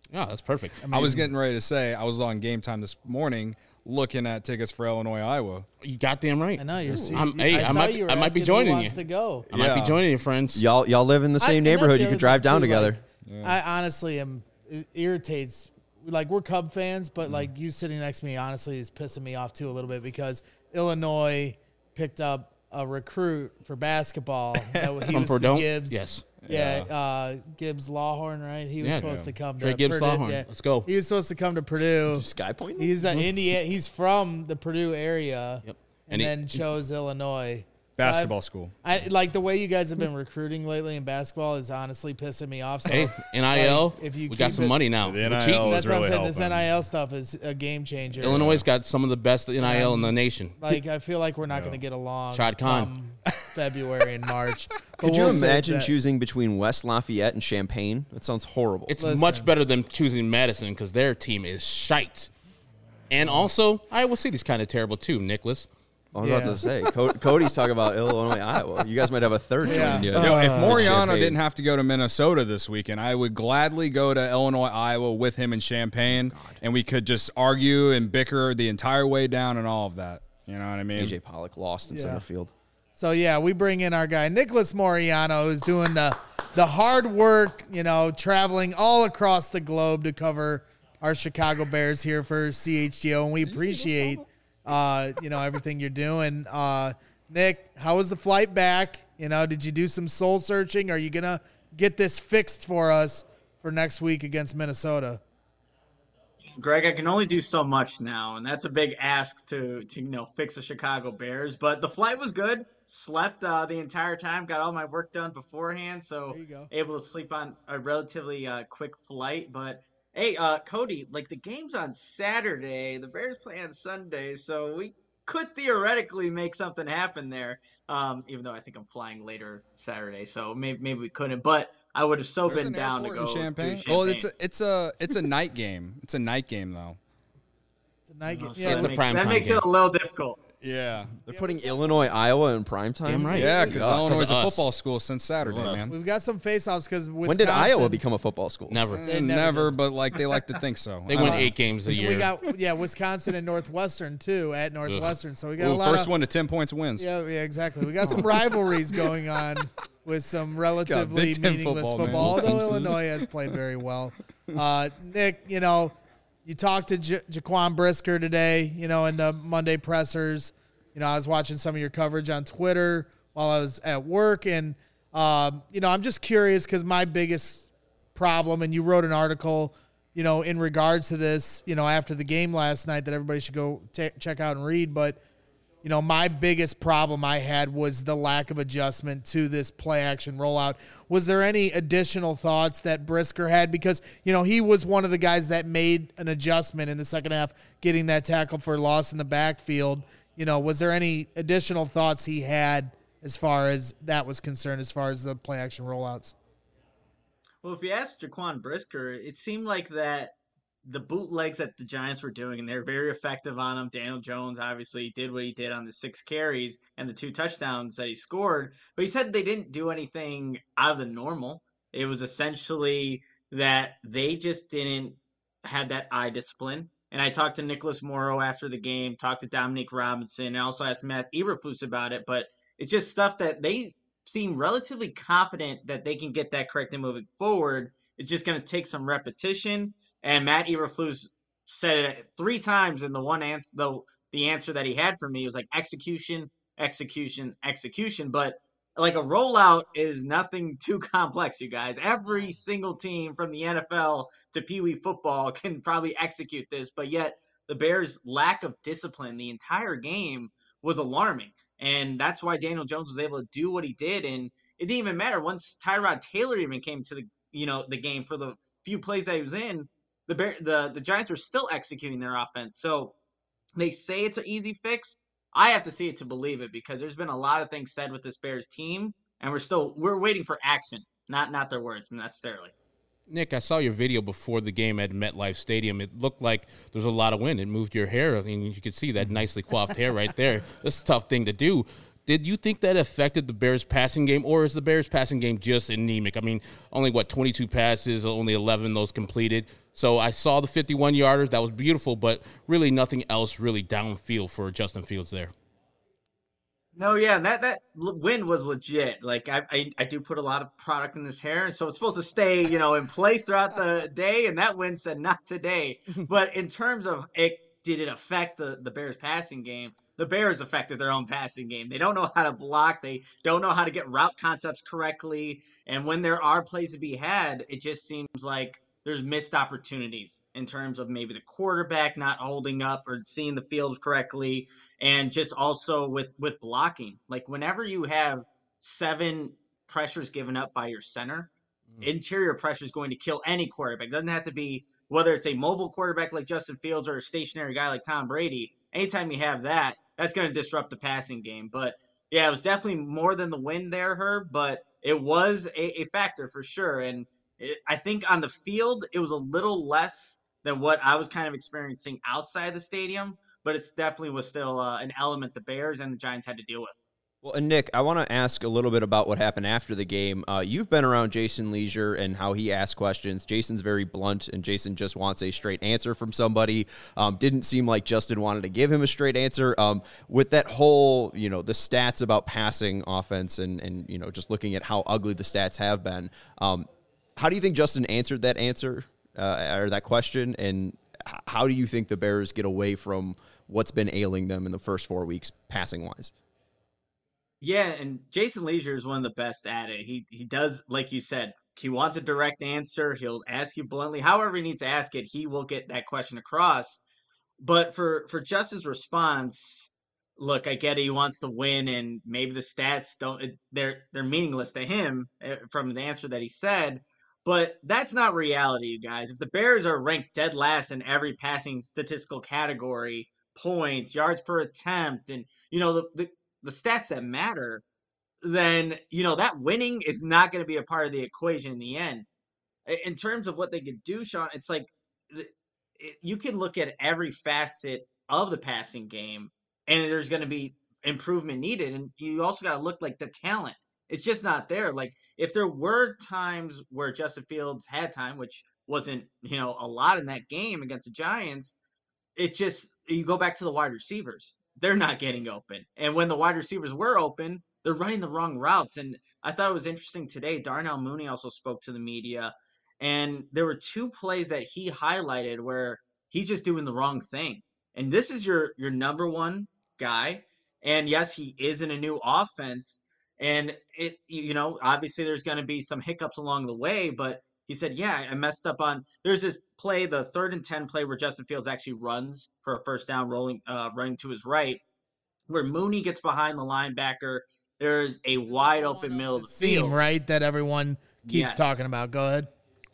Yeah, that's perfect. I, I was getting ready to say I was on Game Time this morning looking at tickets for Illinois, Iowa. You goddamn right. I know you're. See, I'm, hey, I, I, might, you were I might be asking who joining wants you. To go. I might be Yeah. joining you, friends. Y'all y'all live in the I- same and that's neighborhood. the You other could drive thing, down too, together. like, I honestly am. It irritates. Like we're Cub fans, but like you sitting next to me, honestly, is pissing me off too a little bit because Illinois picked up a recruit for basketball. That was, he From was Purdue? Gibbs. Yes. Yeah, uh, Gibbs Lawhorn, right? He was Yeah. supposed Yeah. to come Trey to Gibbs Purdue. Lawhorn. Yeah. Let's go. He was supposed to come to Purdue. Sky Point. He's an Indiana. He's from the Purdue area, Yep. and, And he- then chose Illinois. Basketball school. I like the way you guys have been recruiting lately in basketball is honestly pissing me off. So Hey, N I L, like, if you we got keep some it- money now. The We're N I L cheating. that's is what I'm really saying. This helping. N I L stuff is a game changer. Illinois got some of the best N I L in the nation. Like I feel like we're not going to get along. Shad Khan. come February and March. But Could you we'll save imagine that. choosing between West Lafayette and Champaign? That sounds horrible. It's Listen. much better than choosing Madison because their team is shite. And also, Iowa City's kind of terrible too, Nicholas. I was about Yeah. to say, Co- Cody's talking about Illinois, Iowa. You guys might have a third Yeah. team. Uh, Yo, if Moriano Champaign. didn't have to go to Minnesota this weekend, I would gladly go to Illinois, Iowa with him in Champaign, and we could just argue and bicker the entire way down and all of that. You know what I mean? A J Pollock lost in Yeah. center field. So yeah, we bring in our guy Nicholas Moriano, who's doing the the hard work, you know, traveling all across the globe to cover our Chicago Bears here for C H G O, and we appreciate uh, you know everything you're doing. Uh, Nick, how was the flight back? You know, did you do some soul searching? Are you gonna get this fixed for us for next week against Minnesota? Greg, I can only do so much now, and that's a big ask to to you know fix the Chicago Bears. But the flight was good. Slept uh, the entire time. Got all my work done beforehand, so There you go. able to sleep on a relatively uh, quick flight. But hey, uh, Cody, like the game's on Saturday, the Bears play on Sunday, so we could theoretically make something happen there. Um, even though I think I'm flying later Saturday, so maybe maybe we couldn't. But I would have so There's been an down to airport go in Champagne. do Well, Champagne. it's a, it's a it's a night game. It's a night game though. It's a night game. Oh, so Yeah, It's that a makes, prime that time makes game. it a little difficult. Yeah. They're putting Illinois, Iowa in prime time. Damn right. Yeah, because Yeah. Illinois is a Us. football school since Saturday, man. we've got some face-offs because When did Iowa become a football school? Never. They And never never, did. but like they like to think so. They I win don't know. eight games a year. We got yeah, Wisconsin and Northwestern too at Northwestern. So we got Ooh, a lot first of one to ten points wins. yeah, yeah, exactly. We got some rivalries going on with some relatively Big Ten meaningless football, football, man. although Illinois has played very well. Uh, Nick, you know, you talked to J- Jaquan Brisker today, you know, in the Monday pressers. You know, I was watching some of your coverage on Twitter while I was at work, and um, you know, I'm just curious because my biggest problem, and you wrote an article, you know, in regards to this, you know, after the game last night that everybody should go ta check out and read, but. You know, my biggest problem I had was the lack of adjustment to this play action rollout. Was there any additional thoughts that Brisker had? Because, you know, he was one of the guys that made an adjustment in the second half, getting that tackle for loss in the backfield. You know, was there any additional thoughts he had as far as that was concerned, as far as the play action rollouts? Well, if you ask Jaquan Brisker, it seemed like that the bootlegs that the Giants were doing, and they're very effective on them. Daniel Jones obviously did what he did on the six carries and the two touchdowns that he scored, but he said they didn't do anything out of the normal. It was essentially that they just didn't have that eye discipline. And I talked to Nicholas Morrow after the game, talked to Dominique Robinson, and also asked Matt Eberflus about it, but it's just stuff that they seem relatively confident that they can get that corrected moving forward. It's just going to take some repetition. And Matt Eberflus said it three times in the one answer, the, the answer that he had for me was like execution, execution, execution. But like a rollout is nothing too complex, you guys. Every single team from the N F L to Pee Wee football can probably execute this, but yet the Bears' lack of discipline the entire game was alarming. And that's why Daniel Jones was able to do what he did. And it didn't even matter once Tyrod Taylor even came to the, you know, the game for the few plays that he was in. The Bear, the the Giants are still executing their offense. So they say it's an easy fix. I have to see it to believe it because there's been a lot of things said with this Bears team, and we're still we're waiting for action, not not their words necessarily. Nick, I saw your video before the game at MetLife Stadium. It looked like there was a lot of wind. It moved your hair. I mean, you could see that nicely coiffed hair right there. That's a tough thing to do. Did you think that affected the Bears passing game, or is the Bears passing game just anemic? I mean, only what, twenty-two passes, only eleven of those completed. So I saw the fifty-one yarders. That was beautiful, but really nothing else really downfield for Justin Fields there. No, yeah, that that l- win was legit. Like I, I I do put a lot of product in this hair, and so it's supposed to stay, you know, in place throughout the day. And that win said not today. But in terms of it, did it affect the the Bears passing game? The Bears affected their own passing game. They don't know how to block. They don't know how to get route concepts correctly. And when there are plays to be had, it just seems like there's missed opportunities in terms of maybe the quarterback not holding up or seeing the field correctly, and just also with with blocking. Like whenever you have seven pressures given up by your center, mm. interior pressure is going to kill any quarterback. It doesn't have to be whether it's a mobile quarterback like Justin Fields or a stationary guy like Tom Brady. Anytime you have that, that's going to disrupt the passing game. But yeah, it was definitely more than the win there, Herb, but it was a, a factor for sure. And it, I think on the field, it was a little less than what I was kind of experiencing outside the stadium, but it definitely was still uh, an element the Bears and the Giants had to deal with. Well, and Nick, I want to ask a little bit about what happened after the game. Uh, you've been around Jason Leisure and how he asks questions. Jason's very blunt, and Jason just wants a straight answer from somebody. Um, didn't seem like Justin wanted to give him a straight answer. Um, with that whole, you know, the stats about passing offense and, and you know, just looking at how ugly the stats have been, um, how do you think Justin answered that answer uh, or that question, and how do you think the Bears get away from what's been ailing them in the first four weeks passing-wise? Yeah, and Jason Leisure is one of the best at it. He he does, like you said, he wants a direct answer. He'll ask you bluntly. However he needs to ask it, he will get that question across. But for, for Justin's response, look, I get it. He wants to win, and maybe the stats don't they're they're meaningless to him from the answer that he said. But that's not reality, you guys. If the Bears are ranked dead last in every passing statistical category, points, yards per attempt, and you know the, the the stats that matter, then, you know, that winning is not going to be a part of the equation in the end. In terms of what they could do, Sean, it's like it, you can look at every facet of the passing game, and there's going to be improvement needed. And you also got to look like the talent. It's just not there. Like if there were times where Justin Fields had time, which wasn't, you know, a lot in that game against the Giants, it just, you go back to the wide receivers. They're not getting open. And when the wide receivers were open, they're running the wrong routes. And I thought it was interesting today. Darnell Mooney also spoke to the media, and there were two plays that he highlighted where he's just doing the wrong thing. And this is your your number one guy. And yes, he is in a new offense. And it, you know, obviously there's going to be some hiccups along the way, but he said, yeah, I messed up on, there's this play, the third and ten play where Justin Fields actually runs for a first down, rolling, uh, running to his right, where Mooney gets behind the linebacker. There's a wide open middle of the Seam, field. right, that everyone keeps Yes. talking about. Go ahead.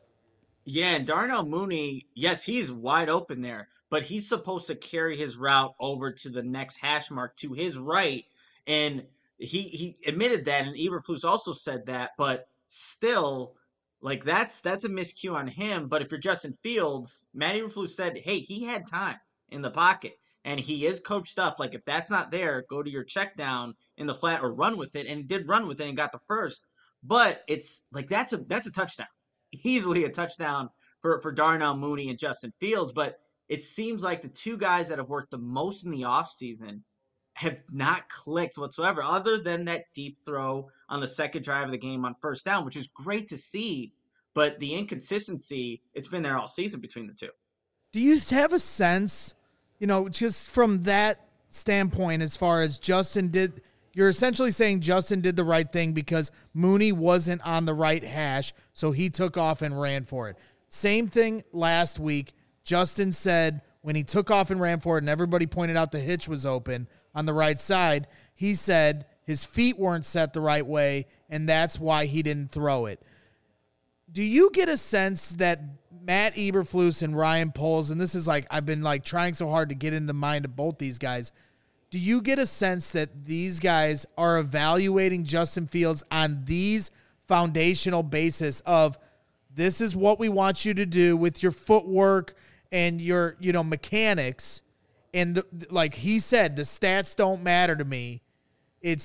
Yeah, and Darnell Mooney, yes, he's wide open there, but he's supposed to carry his route over to the next hash mark to his right. And he, he admitted that, and Eberflus also said that, but still, like that's that's a miscue on him. But if you're Justin Fields, Matt Eberflus said, hey, he had time in the pocket, and he is coached up. Like if that's not there, go to your check down in the flat or run with it. And he did run with it and got the first. But it's like that's a that's a touchdown, easily a touchdown for for Darnell Mooney and Justin Fields. But it seems like the two guys that have worked the most in the offseason have not clicked whatsoever, other than that deep throw on the second drive of the game on first down, which is great to see. But the inconsistency, it's been there all season between the two. Do you have a sense, you know, just from that standpoint, as far as Justin did, you're essentially saying Justin did the right thing because Mooney wasn't on the right hash, so he took off and ran for it. Same thing last week. Justin said when he took off and ran for it and everybody pointed out the hitch was open on the right side, he said his feet weren't set the right way, and that's why he didn't throw it. Do you get a sense that Matt Eberflus and Ryan Poles, and this is like, I've been like trying so hard to get in the mind of both these guys, do you get a sense that these guys are evaluating Justin Fields on these foundational basis of this is what we want you to do with your footwork and your, you know, mechanics? And the, like he said, the stats don't matter to me. It's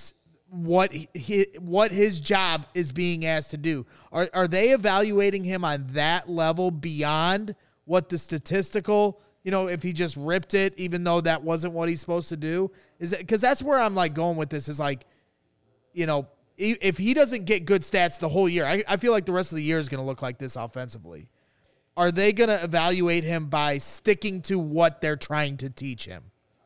what he, what his job is being asked to do. Are are they evaluating him on that level beyond what the statistical, you know, if he just ripped it, even though that wasn't what he's supposed to do? Is it because that's where I'm like going with this is like, you know, if he doesn't get good stats the whole year, I, I feel like the rest of the year is going to look like this offensively. Are they going to evaluate him by sticking to what they're trying to teach him?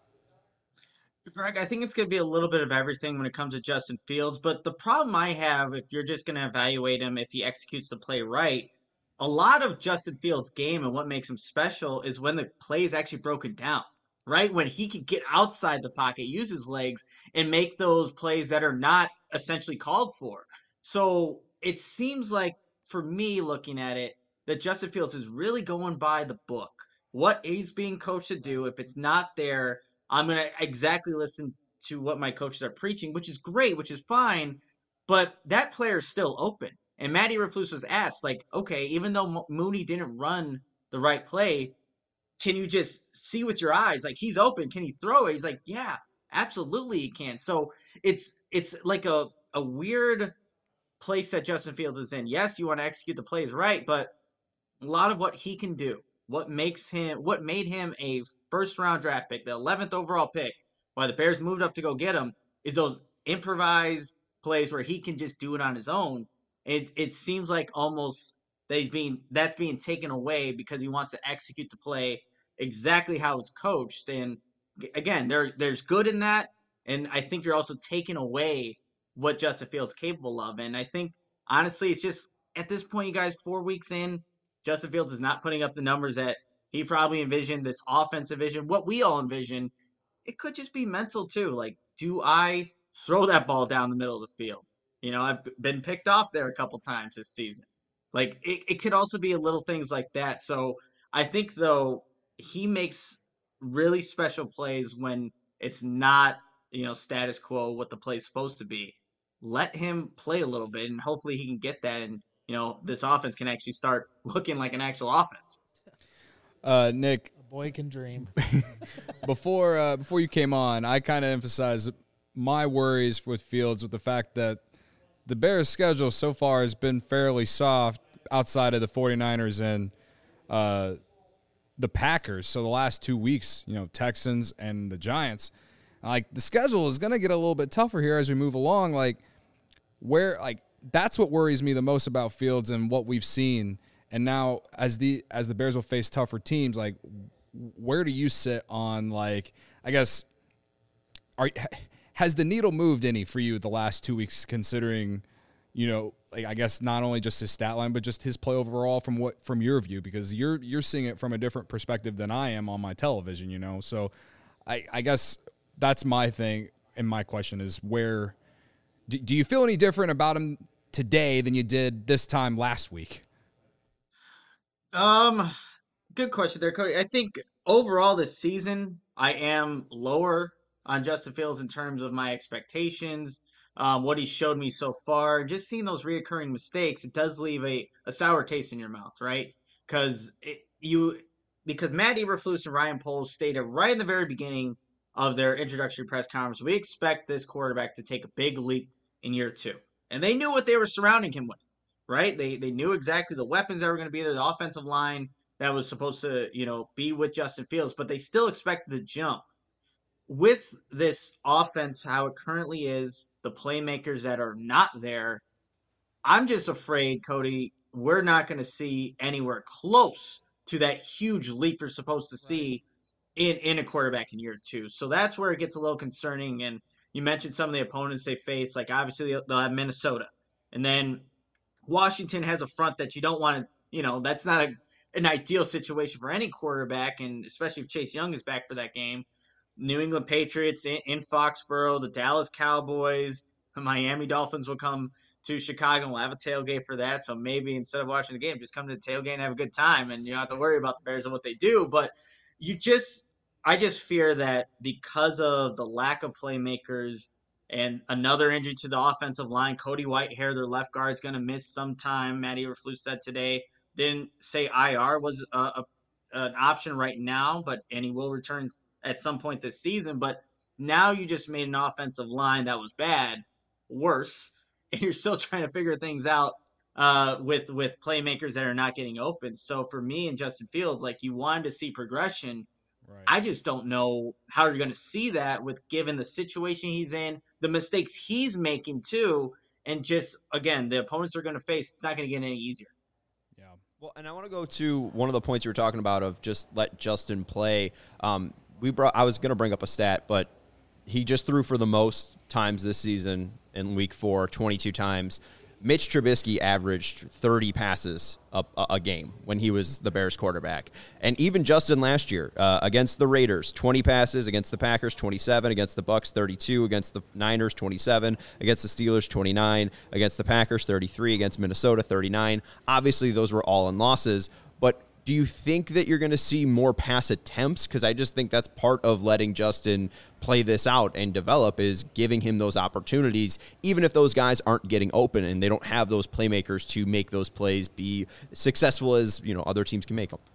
Greg, I think it's going to be a little bit of everything when it comes to Justin Fields. But the problem I have, if you're just going to evaluate him if he executes the play right, a lot of Justin Fields' game and what makes him special is when the play is actually broken down, right? When he can get outside the pocket, use his legs, and make those plays that are not essentially called for. So it seems like, for me looking at it, that Justin Fields is really going by the book. What he's being coached to do, if it's not there, I'm going to exactly listen to what my coaches are preaching, which is great, which is fine, but that player is still open. And Matt Eberflus was asked, like, okay, even though Mooney didn't run the right play, can you just see with your eyes? Like, he's open. Can he throw it? He's like, yeah, absolutely he can. So it's it's like a, a weird place that Justin Fields is in. Yes, you want to execute the plays right, but a lot of what he can do, what makes him, what made him a first round draft pick, the eleventh overall pick, why the Bears moved up to go get him, is those improvised plays where he can just do it on his own. It it seems like almost that he's being that's being taken away because he wants to execute the play exactly how it's coached. And again, there there's good in that, and I think you're also taking away what Justin Fields is capable of. And I think honestly, it's just at this point, you guys, four weeks in, Justin Fields is not putting up the numbers that he probably envisioned, this offensive vision, what we all envision. It could just be mental too. Like, do I throw that ball down the middle of the field? You know, I've been picked off there a couple times this season. Like, it, it could also be little things like that. So I think, though, he makes really special plays when it's not, you know, status quo, what the play's supposed to be. Let him play a little bit, and hopefully he can get that, and, you know, this offense can actually start looking like an actual offense. Uh, Nick, A boy can dream. before uh, before you came on, I kind of emphasized my worries with Fields with the fact that the Bears' schedule so far has been fairly soft outside of the 49ers and uh, the Packers. So the last two weeks, you know, Texans and the Giants. Like, the schedule is going to get a little bit tougher here as we move along. Like, where, like, that's what worries me the most about Fields and what we've seen. And now as the as the Bears will face tougher teams, like, where do you sit on, like, I guess, are has the needle moved any for you the last two weeks, considering, you know, like, I guess not only just his stat line, but just his play overall from what from your view, because you're you're seeing it from a different perspective than I am on my television, you know. So I, I guess that's my thing, and my question is, where do, do you feel any different about him today than you did this time last week? Um, good question there, Cody. I think overall this season, I am lower on Justin Fields in terms of my expectations, um, what he showed me so far. Just seeing those reoccurring mistakes, it does leave a, a sour taste in your mouth, right? Because you, because Matt Eberflus and Ryan Poles stated right in the very beginning of their introductory press conference, we expect this quarterback to take a big leap in year two, and they knew what they were surrounding him with. Right? They they knew exactly the weapons that were going to be there, the offensive line that was supposed to, you know, be with Justin Fields, but they still expected the jump. With this offense, how it currently is, the playmakers that are not there, I'm just afraid, Cody, we're not going to see anywhere close to that huge leap you're supposed to see in, in a quarterback in year two. So that's where it gets a little concerning. And you mentioned some of the opponents they face, like obviously they'll have Minnesota. And then Washington has a front that you don't want to, you know, that's not a, an ideal situation for any quarterback, and especially if Chase Young is back for that game. New England Patriots in, in Foxborough, the Dallas Cowboys, the Miami Dolphins will come to Chicago, and we'll have a tailgate for that. So maybe instead of watching the game, just come to the tailgate and have a good time, and you don't have to worry about the Bears and what they do. But you just, I just fear that because of the lack of playmakers and another injury to the offensive line, Cody Whitehair, their left guard, is going to miss some time. Matt Eberflus said today, didn't say I R was a, a, an option right now, but and he will return at some point this season. But now you just made an offensive line that was bad. worse, and you're still trying to figure things out uh, with with playmakers that are not getting open. So for me and Justin Fields, like you wanted to see progression. Right. I just don't know how you're going to see that with given the situation he's in, the mistakes he's making too, and just again the opponents are going to face. It's not going to get any easier. Yeah. Well, and I want to go to one of the points you were talking about of just let Justin play. Um, we brought. I was going to bring up a stat, but he just threw for the most times this season in week four, twenty-two times. Mitch Trubisky averaged thirty passes a, a game when he was the Bears quarterback. And even Justin last year uh, against the Raiders, twenty passes, against the Packers, twenty-seven, against the Bucks, thirty-two, against the Niners, twenty-seven, against the Steelers, twenty-nine, against the Packers, thirty-three, against Minnesota, thirty-nine. Obviously, those were all in losses, but do you think that you're going to see more pass attempts? Because I just think that's part of letting Justin play this out and develop is giving him those opportunities, even if those guys aren't getting open and they don't have those playmakers to make those plays be successful as, you know, other teams can make them.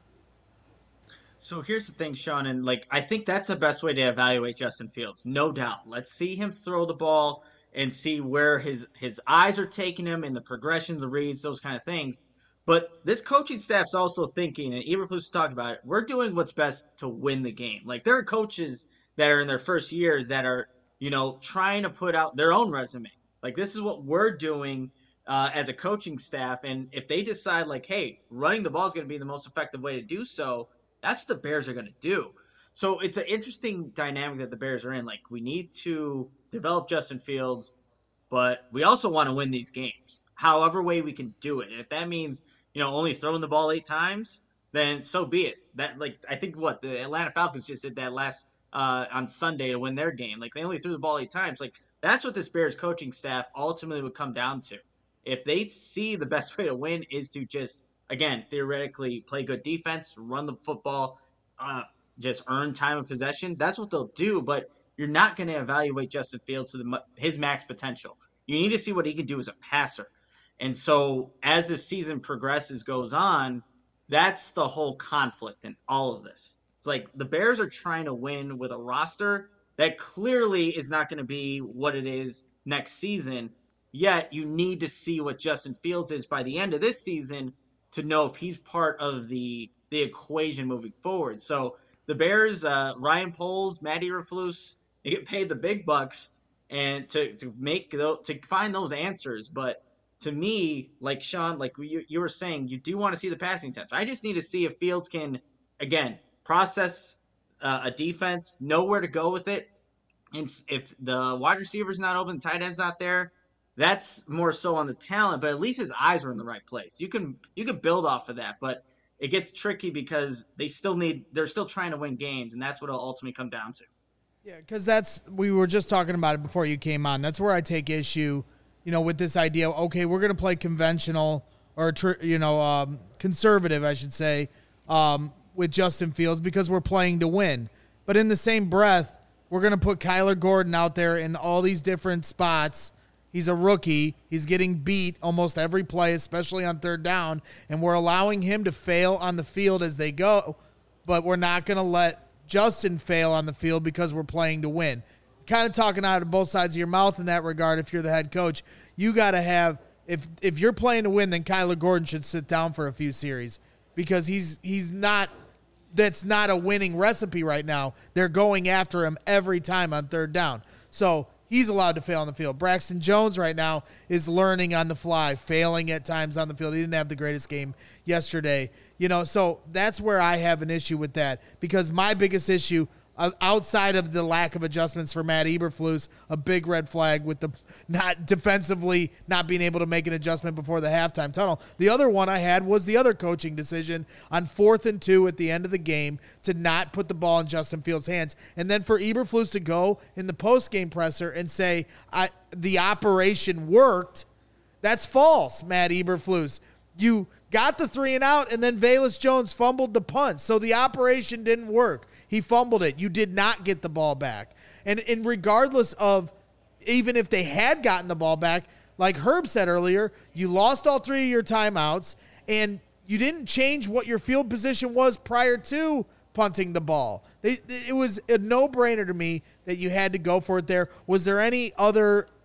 So here's the thing, Sean, and like I think that's the best way to evaluate Justin Fields, no doubt. Let's see him throw the ball and see where his his eyes are taking him and the progression, the reads, those kind of things. But this coaching staff's also thinking, and Eberflus talked about it, we're doing what's best to win the game. Like, there are coaches that are in their first years that are, you know, trying to put out their own resume. Like, this is what we're doing uh, as a coaching staff. And if they decide, like, hey, running the ball is going to be the most effective way to do so, that's what the Bears are going to do. So it's an interesting dynamic that the Bears are in. Like, we need to develop Justin Fields, but we also want to win these games, however way we can do it. And if that means, you know, only throwing the ball eight times, then so be it. That, like, I think what the Atlanta Falcons just did that last uh, on Sunday to win their game. Like, they only threw the ball eight times. Like, that's what this Bears coaching staff ultimately would come down to. If they see the best way to win is to just, again, theoretically play good defense, run the football, uh, just earn time of possession, that's what they'll do. But you're not going to evaluate Justin Fields to the, his max potential. You need to see what he can do as a passer. And so as the season progresses, goes on, that's the whole conflict in all of this. It's like the Bears are trying to win with a roster that clearly is not going to be what it is next season. Yet you need to see what Justin Fields is by the end of this season to know if he's part of the the equation moving forward. So the Bears, uh, Ryan Poles, Matt Eberflus, they get paid the big bucks and to to make those, to find those answers. But to me, like Sean, like you, you were saying, you do want to see the passing attempts. I just need to see if Fields can, again, process uh, a defense, know where to go with it. And if the wide receiver's not open, the tight end's not there, that's more so on the talent. But at least his eyes are in the right place. You can you can build off of that, but it gets tricky because they still need they're still trying to win games, and that's what it'll ultimately come down to. Yeah, because that's we were just talking about it before you came on. That's where I take issue. You know, with this idea, okay, we're going to play conventional or, you know, um, conservative, I should say, um, with Justin Fields because we're playing to win. But in the same breath, we're going to put Kyler Gordon out there in all these different spots. He's a rookie. He's getting beat almost every play, especially on third down. And we're allowing him to fail on the field as they go. But we're not going to let Justin fail on the field because we're playing to win. Kind of talking out of both sides of your mouth in that regard. If you're the head coach, you got to have, if if you're playing to win, then Kyler Gordon should sit down for a few series because he's he's not, that's not a winning recipe right now. They're going after him every time on third down. So he's allowed to fail on the field. Braxton Jones right now is learning on the fly, failing at times on the field. He didn't have the greatest game yesterday. You know, so that's where I have an issue with that because my biggest issue outside of the lack of adjustments for Matt Eberflus, a big red flag with the not defensively not being able to make an adjustment before the halftime tunnel. The other one I had was the other coaching decision on fourth and two at the end of the game to not put the ball in Justin Fields' hands. And then for Eberflus to go in the post-game presser and say, I, the operation worked, that's false, Matt Eberflus. You got the three and out, and then Velus Jones fumbled the punt, so the operation didn't work. He fumbled it. You did not get the ball back. And, and regardless of even if they had gotten the ball back, like Herb said earlier, you lost all three of your timeouts, and you didn't change what your field position was prior to punting the ball. They, it was a no-brainer to me that you had to go for it there. Was there any other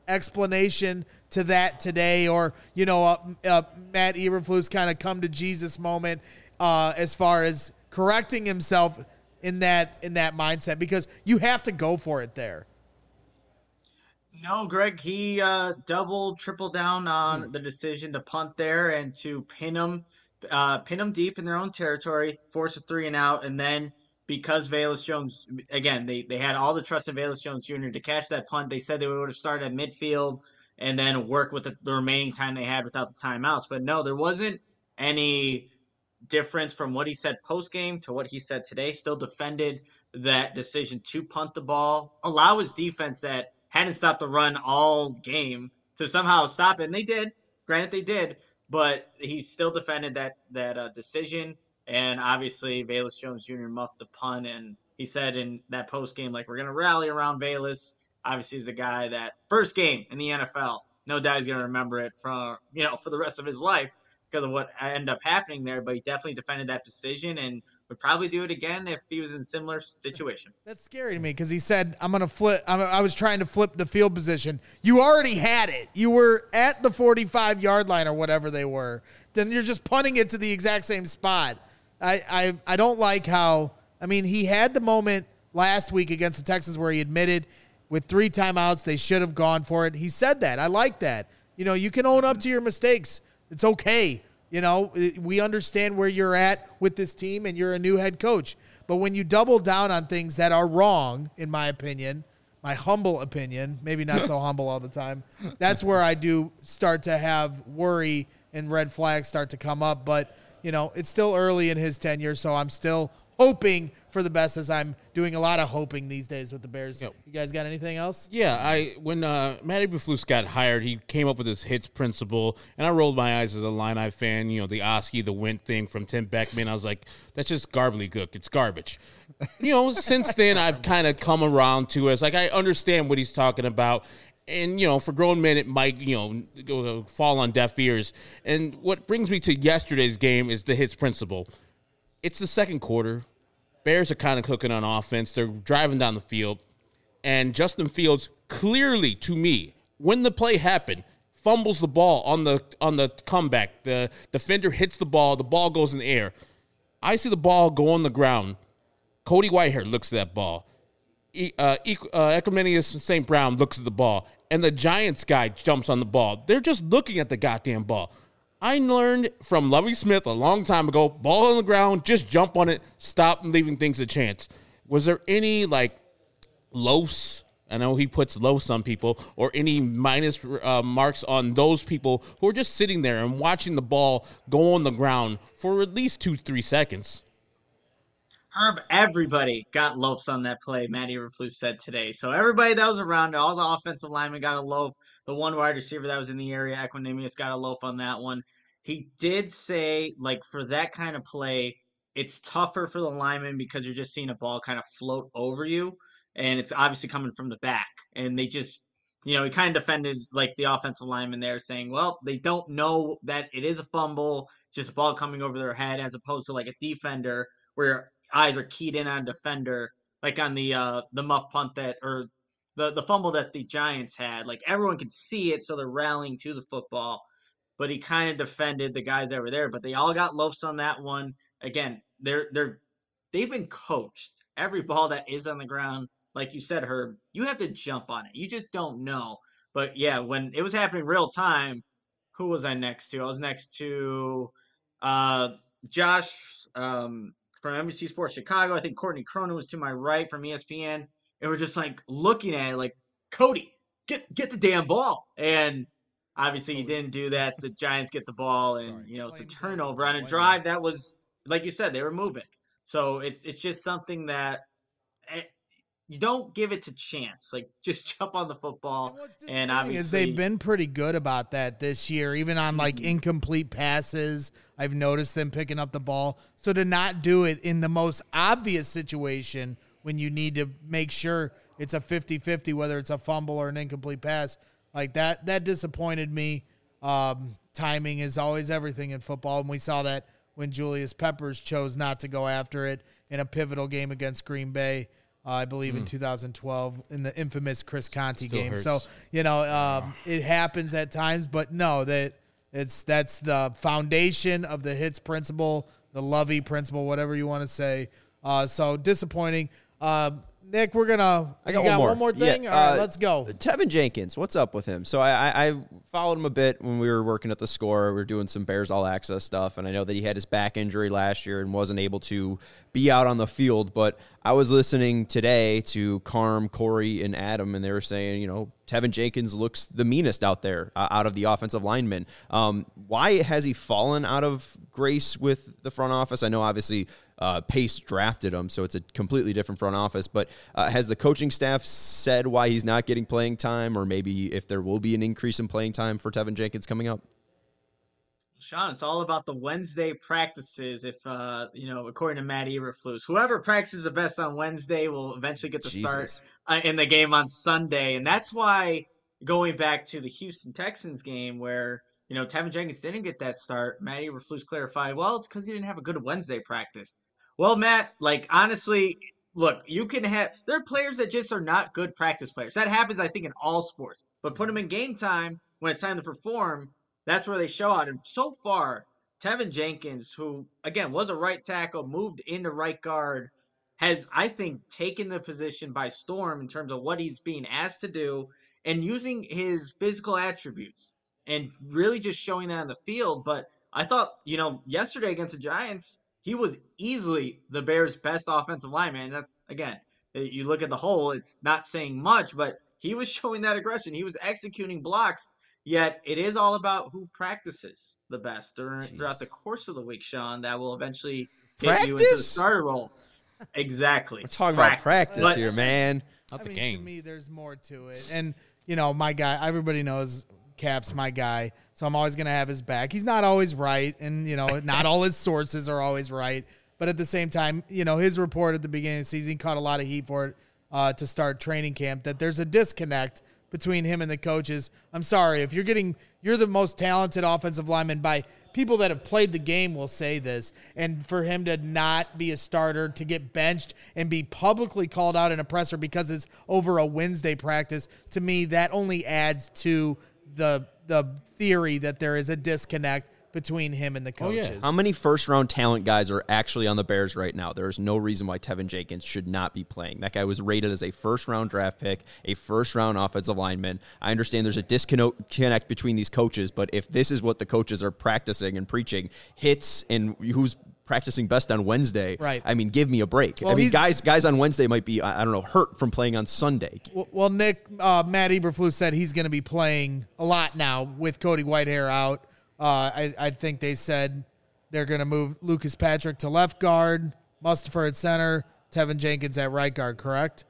explanation to that today, or, you know, uh, uh, Matt Eberflus kind of come to Jesus moment uh, as far as correcting himself in that in that mindset, because you have to go for it there. No, Greg, he uh, doubled, tripled down on the decision to punt there and to pin them, uh, pin them deep in their own territory, force a three and out, and then because Velus Jones, again, they, they had all the trust in Velus Jones Junior to catch that punt. They said they would have started at midfield and then work with the, the remaining time they had without the timeouts. But no, there wasn't any difference from what he said post-game to what he said today. Still defended that decision to punt the ball, allow his defense that hadn't stopped the run all game to somehow stop it. And they did. Granted, they did. But he still defended that that uh, decision. And obviously, Velus Jones Junior muffed the punt. And he said in that post game, like, we're going to rally around Velus. Obviously, he's a guy that first game in the N F L, no doubt he's going to remember it for, you know, for the rest of his life because of what ended up happening there. But he definitely defended that decision and would probably do it again if he was in a similar situation. That's scary to me because he said, I'm going to flip. I'm, I was trying to flip the field position. You already had it. You were at the forty-five yard line or whatever they were. Then you're just punting it to the exact same spot. I, I, I don't like how, I mean, he had the moment last week against the Texans where he admitted with three timeouts, they should have gone for it. He said that. I like that. You know, you can own up to your mistakes. It's okay. You know, we understand where you're at with this team and you're a new head coach. But when you double down on things that are wrong, in my opinion, my humble opinion, maybe not so humble all the time, that's where I do start to have worry and red flags start to come up. But, you know, it's still early in his tenure, so I'm still hoping for the best, as I'm doing a lot of hoping these days with the Bears. Yep. You guys got anything else? Yeah, I when uh, Matt Eberflus got hired, he came up with his hits principle, and I rolled my eyes as a Illini fan. You know, the Oski, the Wint thing from Tim Beckman. I was like, that's just gobbledygook. It's garbage. You know, since then, I've kind of come around to it. It's like I understand what he's talking about. And, you know, for grown men, it might, you know, go, fall on deaf ears. And what brings me to yesterday's game is the hits principle. It's the second quarter. Bears are kind of cooking on offense. They're driving down the field. And Justin Fields clearly, to me, when the play happened, fumbles the ball on the on the comeback. The defender hits the ball. The ball goes in the air. I see the ball go on the ground. Cody Whitehair looks at that ball. E, uh, e, uh, Equanimeous Saint Brown looks at the ball. And the Giants guy jumps on the ball. They're just looking at the goddamn ball. I learned from Lovie Smith a long time ago, ball on the ground, just jump on it, stop leaving things a chance. Was there any, like, lows, I know he puts lows on people, or any minus uh, marks on those people who are just sitting there and watching the ball go on the ground for at least two, three seconds? Herb, everybody got loafs on that play, Matt Eberflus said today. So everybody that was around, all the offensive linemen got a loaf. The one wide receiver that was in the area, Equanimeous, got a loaf on that one. He did say, like, for that kind of play, it's tougher for the linemen because you're just seeing a ball kind of float over you, and it's obviously coming from the back. And they just, you know, he kind of defended, like, the offensive lineman there, saying, well, they don't know that it is a fumble, it's just a ball coming over their head, as opposed to, like, a defender where eyes are keyed in on defender, like on the uh, the muff punt that, or the, the fumble that the Giants had. Like, everyone can see it, so they're rallying to the football. But he kind of defended the guys that were there. But they all got loafs on that one. Again, they're they're they've been coached. Every ball that is on the ground, like you said, Herb, you have to jump on it. You just don't know. But yeah, when it was happening real time, who was I next to? I was next to uh, Josh um, from N B C Sports Chicago. I think Courtney Cronin was to my right from E S P N. And we're just like looking at it like, Cody, get get the damn ball. And obviously, he didn't do that. The Giants get the ball, and, Sorry. you know, it's a turnover on a drive that was, like you said, they were moving. So it's it's just something that it, you don't give it to chance. Like, just jump on the football. And, and obviously, is they've been pretty good about that this year, even on, like, incomplete passes. I've noticed them picking up the ball. So to not do it in the most obvious situation when you need to make sure it's a fifty-fifty, whether it's a fumble or an incomplete pass, like that, that disappointed me. Um, timing is always everything in football, and we saw that when Julius Peppers chose not to go after it in a pivotal game against Green Bay. uh, I believe in two thousand twelve in the infamous Chris Conti Still game. hurts. So, you know, um, it happens at times, but no, that it's that's the foundation of the hits principle, the Lovey principle, whatever you want to say. Uh, so disappointing. Uh, Nick, we're gonna. I got, you got one, one more thing. Yeah, All right, uh, let's go. Tevin Jenkins, what's up with him? So I, I, I followed him a bit when we were working at the Score. We were doing some Bears All Access stuff, and I know that he had his back injury last year and wasn't able to be out on the field. But I was listening today to Carm, Corey, and Adam, and they were saying, you know, Tevin Jenkins looks the meanest out there, uh, out of the offensive linemen. Um, why has he fallen out of grace with the front office? I know, obviously, uh, Pace drafted him, so it's a completely different front office. But uh, has the coaching staff said why he's not getting playing time, or maybe if there will be an increase in playing time for Tevin Jenkins coming up? Sean, it's all about the Wednesday practices. If, uh, you know, according to Matt Eberflus, whoever practices the best on Wednesday will eventually get the Jesus. start uh, in the game on Sunday. And that's why, going back to the Houston Texans game where, you know, Tevin Jenkins didn't get that start, Matt Eberflus clarified, well, it's because he didn't have a good Wednesday practice. Well, Matt, like, honestly, look, you can have – there are players that just are not good practice players. That happens, I think, in all sports. But put them in game time when it's time to perform – that's where they show out. And so far, Tevin Jenkins, who, again, was a right tackle, moved into right guard, has, I think, taken the position by storm in terms of what he's being asked to do and using his physical attributes and really just showing that on the field. But I thought, you know, yesterday against the Giants, he was easily the Bears' best offensive lineman. And that's, again, you look at the whole, it's not saying much, but he was showing that aggression. He was executing blocks. Yet it is all about who practices the best during, throughout the course of the week, Sean. That will eventually get Practice? you into the starter role. Exactly. We're talking about practice But- here, man. Not I the mean, game. to me, there's more to it. And, you know, my guy, everybody knows Cap's my guy, so I'm always going to have his back. He's not always right, and, you know, not all his sources are always right. But at the same time, you know, his report at the beginning of the season caught a lot of heat for it uh, to start training camp, that there's a disconnect between him and the coaches. I'm sorry, if you're getting, you're the most talented offensive lineman by people that have played the game will say this, and for him to not be a starter, to get benched and be publicly called out in a presser because it's over a Wednesday practice, to me, that only adds to the the theory that there is a disconnect between him and the Oh, yeah. coaches. How many first-round talent guys are actually on the Bears right now? There is no reason why Tevin Jenkins should not be playing. That guy was rated as a first-round draft pick, a first-round offensive lineman. I understand there's a disconnect between these coaches, but if this is what the coaches are practicing and preaching, hits and who's practicing best on Wednesday, Right. I mean, give me a break. Well, I mean, he's- guys guys on Wednesday might be, I I don't know, hurt from playing on Sunday. Well, well, Nick, uh, Matt Eberflus said he's going to be playing a lot now with Cody Whitehair out. Uh, I, I think they said they're going to move Lucas Patrick to left guard, Mustafa at center, Tevin Jenkins at right guard, correct?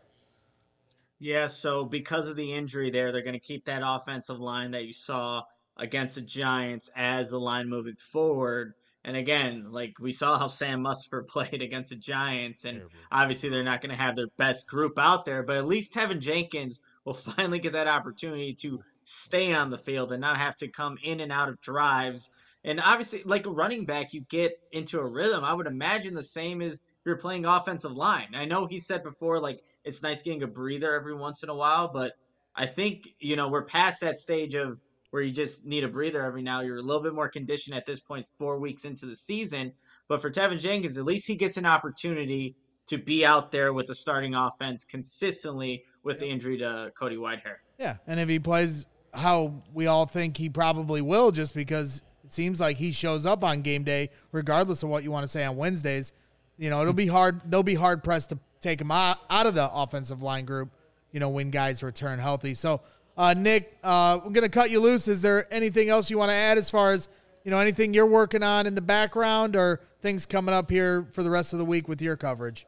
Yeah, so because of the injury there, they're going to keep that offensive line that you saw against the Giants as the line moving forward. And again, like we saw how Sam Mustipher played against the Giants, and obviously they're not going to have their best group out there, but at least Tevin Jenkins will finally get that opportunity to stay on the field and not have to come in and out of drives. And obviously, like a running back, you get into a rhythm. I would imagine the same as you're playing offensive line. I know he said before, like, it's nice getting a breather every once in a while, but I think, you know, we're past that stage of where you just need a breather every now. You're a little bit more conditioned at this point, four weeks into the season. But for Tevin Jenkins, at least he gets an opportunity to be out there with the starting offense consistently with the injury to Cody Whitehair. Yeah, and if he plays how we all think he probably will, just because it seems like he shows up on game day, regardless of what you want to say on Wednesdays, you know, it'll be hard. They'll be hard pressed to take him out, out of the offensive line group, you know, when guys return healthy. So, uh, Nick, uh, we're going to cut you loose. Is there anything else you want to add as far as, you know, anything you're working on in the background or things coming up here for the rest of the week with your coverage?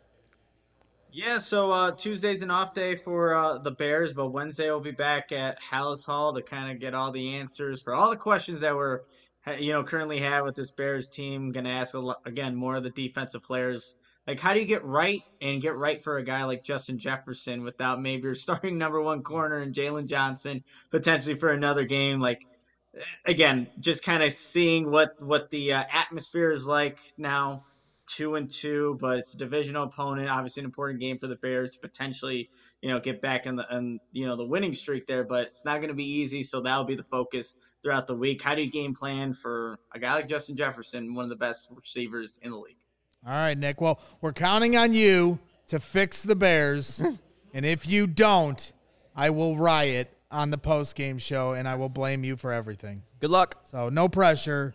Yeah, so uh, Tuesday's an off day for uh, the Bears, but Wednesday we'll be back at Hallis Hall to kind of get all the answers for all the questions that we're, you know, currently have with this Bears team. Going to ask, a lot, again, more of the defensive players. Like, how do you get right and get right for a guy like Justin Jefferson without maybe your starting number one corner and Jalen Johnson potentially for another game? Like, again, just kind of seeing what, what the uh, atmosphere is like now. two and two, but it's a divisional opponent. Obviously, an important game for the Bears to potentially, you know, get back in the, in, you know, the winning streak there. But it's not going to be easy, so that'll be the focus throughout the week. How do you game plan for a guy like Justin Jefferson, one of the best receivers in the league? All right, Nick. Well, we're counting on you to fix the Bears, and if you don't, I will riot on the post-game show, and I will blame you for everything. Good luck. So no pressure.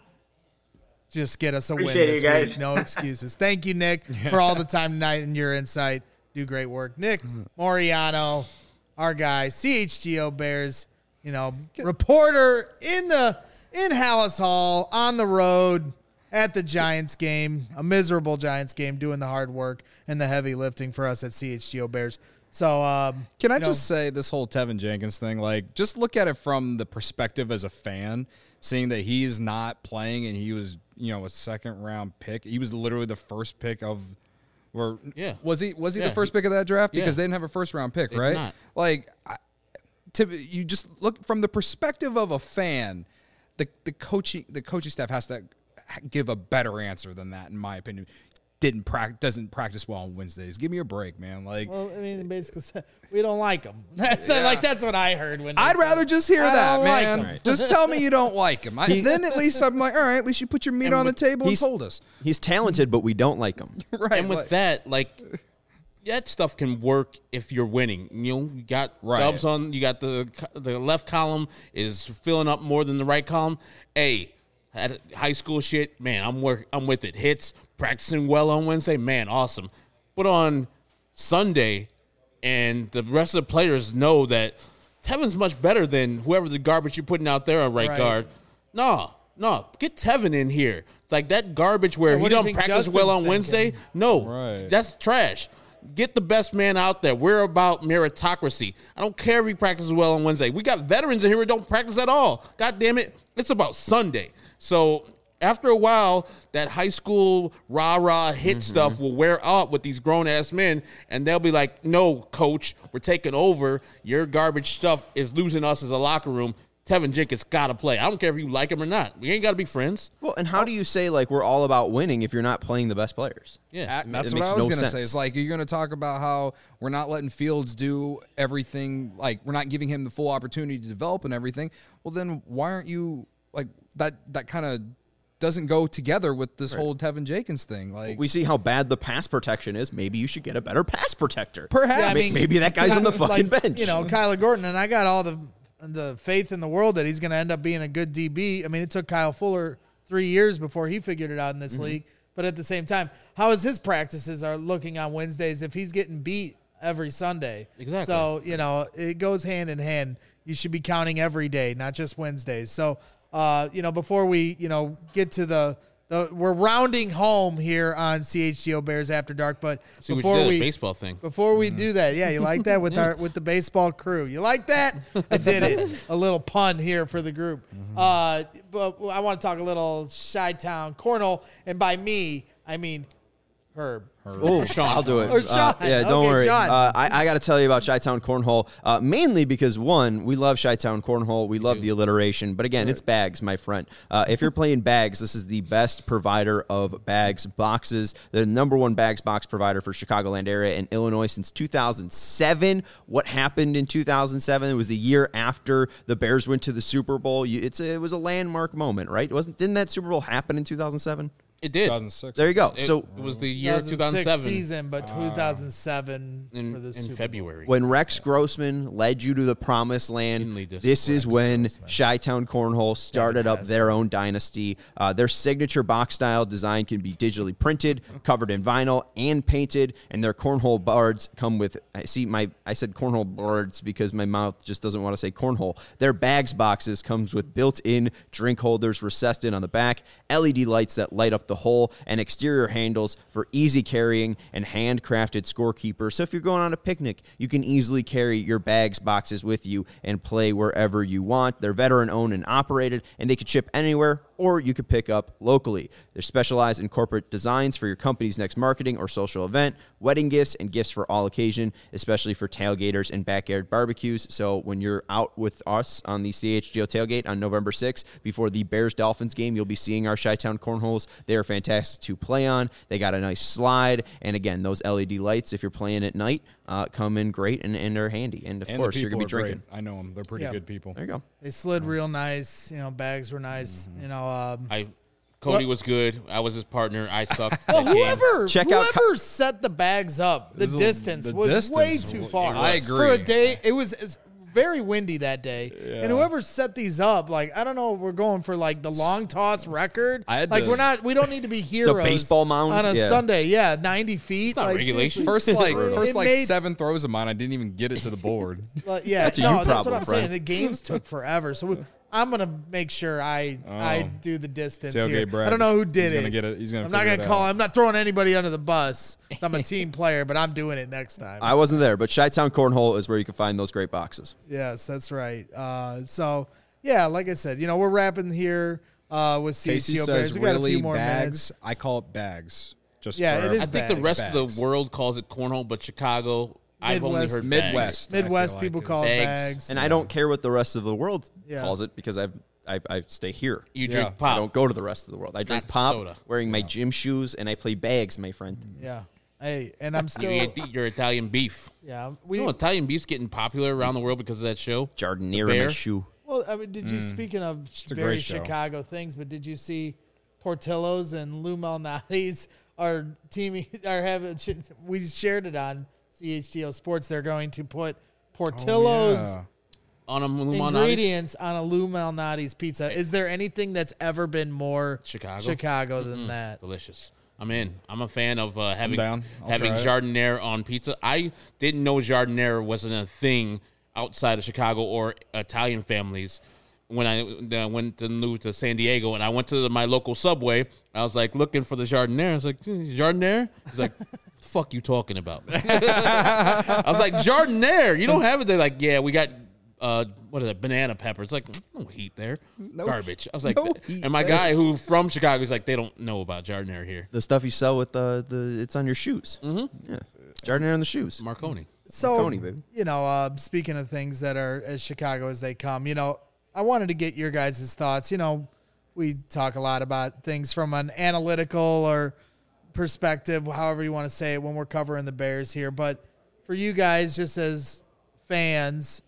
Just get us a Appreciate win this you guys. week. No excuses. Thank you, Nick, for all the time tonight and your insight. Do great work. Nick Moriano, our guy, C H G O Bears, you know, reporter in the in Hallis Hall, on the road at the Giants game, a miserable Giants game, doing the hard work and the heavy lifting for us at C H G O Bears. So, um, Can I you know, just say this whole Tevin Jenkins thing, like, just look at it from the perspective as a fan, seeing that he's not playing and he was, you know, a second round pick. He was literally the first pick of, or Yeah. was he? Was he Yeah, the first pick of that draft? Because yeah. they didn't have a first round pick, They did right? not. Like, I, to, you just look from the perspective of a fan. The the coaching the coaching staff has to give a better answer than that, in my opinion. Didn't practice, doesn't practice well on Wednesdays. Give me a break, man. Like, well, I mean, they basically said we don't like him. That's like that's what I heard when they I'd said, rather just hear I that, don't like man. him. Right. Just tell me you don't like him. I, then at least I'm like, all right, at least you put your meat And on the with- table and he's- told us. He's talented, but we don't like him. Right. And with like- that, like that stuff can work if you're winning. You know, you got Right. dubs on. You got the the left column is filling up more than the right column. Hey, at high school shit, man, I'm work. I'm with it. Hits, practicing well on Wednesday, man, awesome. But on Sunday, and the rest of the players know that Tevin's much better than whoever the garbage you're putting out there on right, Right. guard. No, no, get Tevin in here. It's like that garbage where Yeah, he what do you don't think practice well Justin's on Wednesday. thinking? No, Right. that's trash. Get the best man out there. We're about meritocracy. I don't care if he practices well on Wednesday. We got veterans in here who don't practice at all. God damn it. It's about Sunday. So after a while, that high school rah-rah hit Mm-hmm. stuff will wear out with these grown-ass men, and they'll be like, no, coach, we're taking over. Your garbage stuff is losing us as a locker room. Tevin Jenkins got to play. I don't care if you like him or not. We ain't got to be friends. Well, and how do you say, like, we're all about winning if you're not playing the best players? Yeah. That- that's it what makes I was no gonna say. sense. It's like you're gonna talk about how we're not letting Fields do everything. Like we're not giving him the full opportunity to develop and everything. Well, then why aren't you like that? That kind of doesn't go together with this whole Tevin Jenkins thing. Like We see how bad the pass protection is. Maybe you should get a better pass protector. perhaps Yeah, I mean, Maybe that guy's on the fucking like, bench. You know, Kyler Gordon, and I got all the the faith in the world that he's going to end up being a good D B. I mean, it took Kyle Fuller three years before he figured it out in this Mm-hmm. league. But at the same time, how is his practices are looking on Wednesdays if he's getting beat every Sunday? Exactly. So, you know, it goes hand in hand. You should be counting every day, not just Wednesdays. So, uh, you know, before we, you know, get to the, the we're rounding home here on C H G O Bears After Dark, but See what you before did, we a baseball thing. before we do that, yeah, you like that with our with the baseball crew. You like that? I did it. A little pun here for the group. Uh, but I want to talk a little Chi-Town Cornhole, and by me, I mean Herb. Oh, I'll do it. Or Uh, Sean. yeah, don't Okay, worry. Sean. Uh, I, I got to tell you about Chi-Town Cornhole, uh, mainly because, one, we love Chi-Town Cornhole. We love the alliteration. But, again, it's bags, my friend. Uh, if you're playing bags, this is the best provider of bags boxes, the number one bags box provider for Chicagoland area and Illinois since two thousand seven. What happened in two thousand seven? It was the year after the Bears went to the Super Bowl. You, it's a, it was a landmark moment, right? Wasn't Didn't that Super Bowl happen in two thousand seven? It did. two thousand six. There you go. It, so it was the year two thousand six seven season, but two thousand seven in, for the in Super Bowl. February. when Rex Grossman led you to the promised land, Didn't lead us. this is Rex when Grossman. Chi-Town Cornhole started up has. their own dynasty. Uh, their signature box style design can be digitally printed, covered in vinyl, and painted. And their cornhole boards come with. I see my. I said cornhole boards because my mouth just doesn't want to say cornhole. Their bags boxes comes with built-in drink holders recessed in on the back, L E D lights that light up the hole, and exterior handles for easy carrying and handcrafted scorekeepers. So if you're going on a picnic, you can easily carry your bags boxes with you and play wherever you want. They're veteran owned and operated, and they can ship anywhere or you could pick up locally. They're specialized in corporate designs for your company's next marketing or social event, wedding gifts, and gifts for all occasion, especially for tailgaters and backyard barbecues. So when you're out with us on the C H G O tailgate on November sixth, before the Bears-Dolphins game, you'll be seeing our Chi-Town cornholes. They are fantastic to play on. They got a nice slide. And again, those L E D lights, if you're playing at night, uh, come in great and, and are handy. And of And course, the you're people going to be are drinking. great. I know them. They're pretty Yeah. good people. There you go. They slid real nice. You know, bags were nice. Mm-hmm. You know, um, I Cody What? was good. I was his partner. I sucked. well, that game. whoever Check out whoever set the bags up, the This is a- distance the was distance way was- too far. I For a agree. day, it was. It's very windy that day, and whoever set these up, like I don't know, we're going for like the long toss record. I had like to- we're not, we don't need to be heroes. baseball mound? on a Yeah. Sunday, yeah, ninety feet. not like, regulation. seriously. First like It first like made- seven throws of mine, I didn't even get it to the board. But yeah, That's a no, you that's problem, what I'm friend. saying. The games took forever, so we, I'm gonna make sure I I Oh. do the distance Tailgate here. Brad I don't know who is- did he's it. gonna get it- he's gonna I'm not figure gonna it call. out. I'm not throwing anybody under the bus. So I'm a team player, but I'm doing it next time. I wasn't there, but Chi-Town Cornhole is where you can find those great boxes. Yes, that's right. Uh, so yeah, like I said, you know, we're wrapping here uh, with Casey C H G O says Bears. We got a really few more bags. minutes. I call it bags. Just Yeah, for it is I think the bags. rest Bags. of the world calls it cornhole, but Chicago, I've only Midwest. heard Midwest. I Midwest feel people like call it Bags. bags. And I don't care what the rest of the world Yeah. calls it because I've, I, I stay here. You Yeah. drink I pop. don't go to the rest of the world. I drink Not pop, soda. wearing my gym shoes, and I play bags, my friend. Yeah. Hey, and I'm You still. eat your Italian beef. Yeah. We. You know, Italian beef's getting popular around the world because of that show. Jardinier in Bear? my shoe. Well, I mean, did you speaking of a very great show. Chicago things, but did you see Portillo's and Lou Malnati's are teaming are having we shared it on C H G O Sports. They're going to put Portillo's Yeah. On a Malnati's. ingredients on a Lou Malnati's pizza. Is there anything that's ever been more Chicago? Chicago than that? Delicious. I'm in. I'm a fan of uh, having down. I'll having try it. jardiniere on pizza. I didn't know jardiniere wasn't a thing outside of Chicago or Italian families. When I uh, went to move to San Diego and I went to my local Subway, I was like looking for the jardiniere. I was like, jardiniere? He's like, what the fuck you talking about? I was like, jardiniere? You don't have it? They're like, yeah, we got uh, what is it, banana pepper. It's like, no heat there. Garbage. I was like, no heat and my there. guy who from Chicago, he's like, they don't know about jardiniere here. The stuff you sell with the, the it's on your shoes. Mm-hmm. Yeah. Jardinier on the shoes. Marconi. So, Marconi, baby. you know, uh, speaking of things that are as Chicago as they come, you know, I wanted to get your guys' thoughts. You know, we talk a lot about things from an analytical or perspective, however you want to say it, when we're covering the Bears here. But for you guys, just as fans,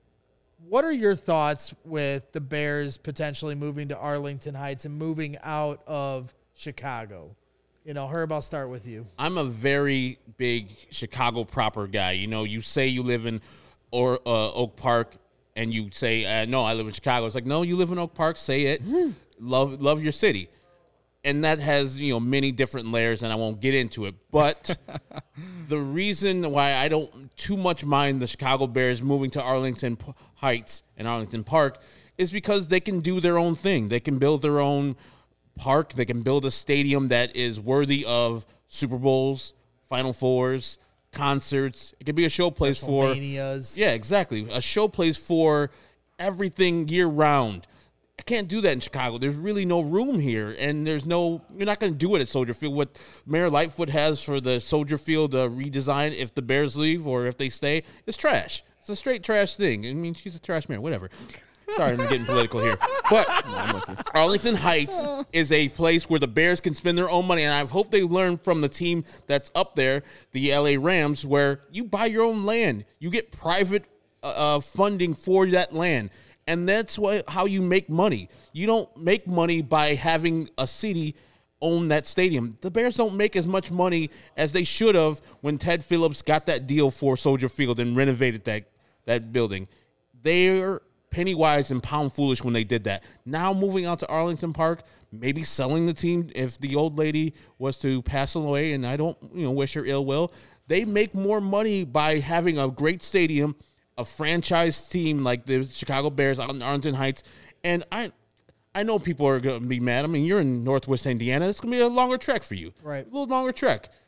what are your thoughts with the Bears potentially moving to Arlington Heights and moving out of Chicago? You know, Herb, I'll start with you. I'm a very big Chicago proper guy. You know, you say you live in or uh, Oak Park, and you say, uh, "No, I live in Chicago." It's like, no, you live in Oak Park. Say it. Love, love your city, and that has you know many different layers, and I won't get into it. But the reason why I don't too much mind the Chicago Bears moving to Arlington P- Heights and Arlington Park is because they can do their own thing. They can build their own park. They can build a stadium that is worthy of Super Bowls, Final Fours, concerts. It could be a showplace for WrestleManias. yeah, exactly. A showplace for everything year round. I can't do that in Chicago. There's really no room here, and there's no. You're not going to do it at Soldier Field. What Mayor Lightfoot has for the Soldier Field uh, redesign, if the Bears leave or if they stay, it's trash. It's a straight trash thing. I mean, she's a trash mayor. Whatever. Sorry, I'm getting political here. But Arlington Heights is a place where the Bears can spend their own money. And I hope they learn from the team that's up there, the L A Rams, where you buy your own land. You get private uh, funding for that land. And that's what, how you make money. You don't make money by having a city own that stadium. The Bears don't make as much money as they should have when Ted Phillips got that deal for Soldier Field and renovated that, that building. They're penny wise and pound foolish when they did that. Now moving out to Arlington Park, maybe selling the team if the old lady was to pass away, and I don't you know wish her ill will. They make more money by having a great stadium, a franchise team like the Chicago Bears out in Arlington Heights. And I I know people are going to be mad. I mean, you're in Northwest Indiana. It's going to be a longer trek for you. Right. A little longer trek.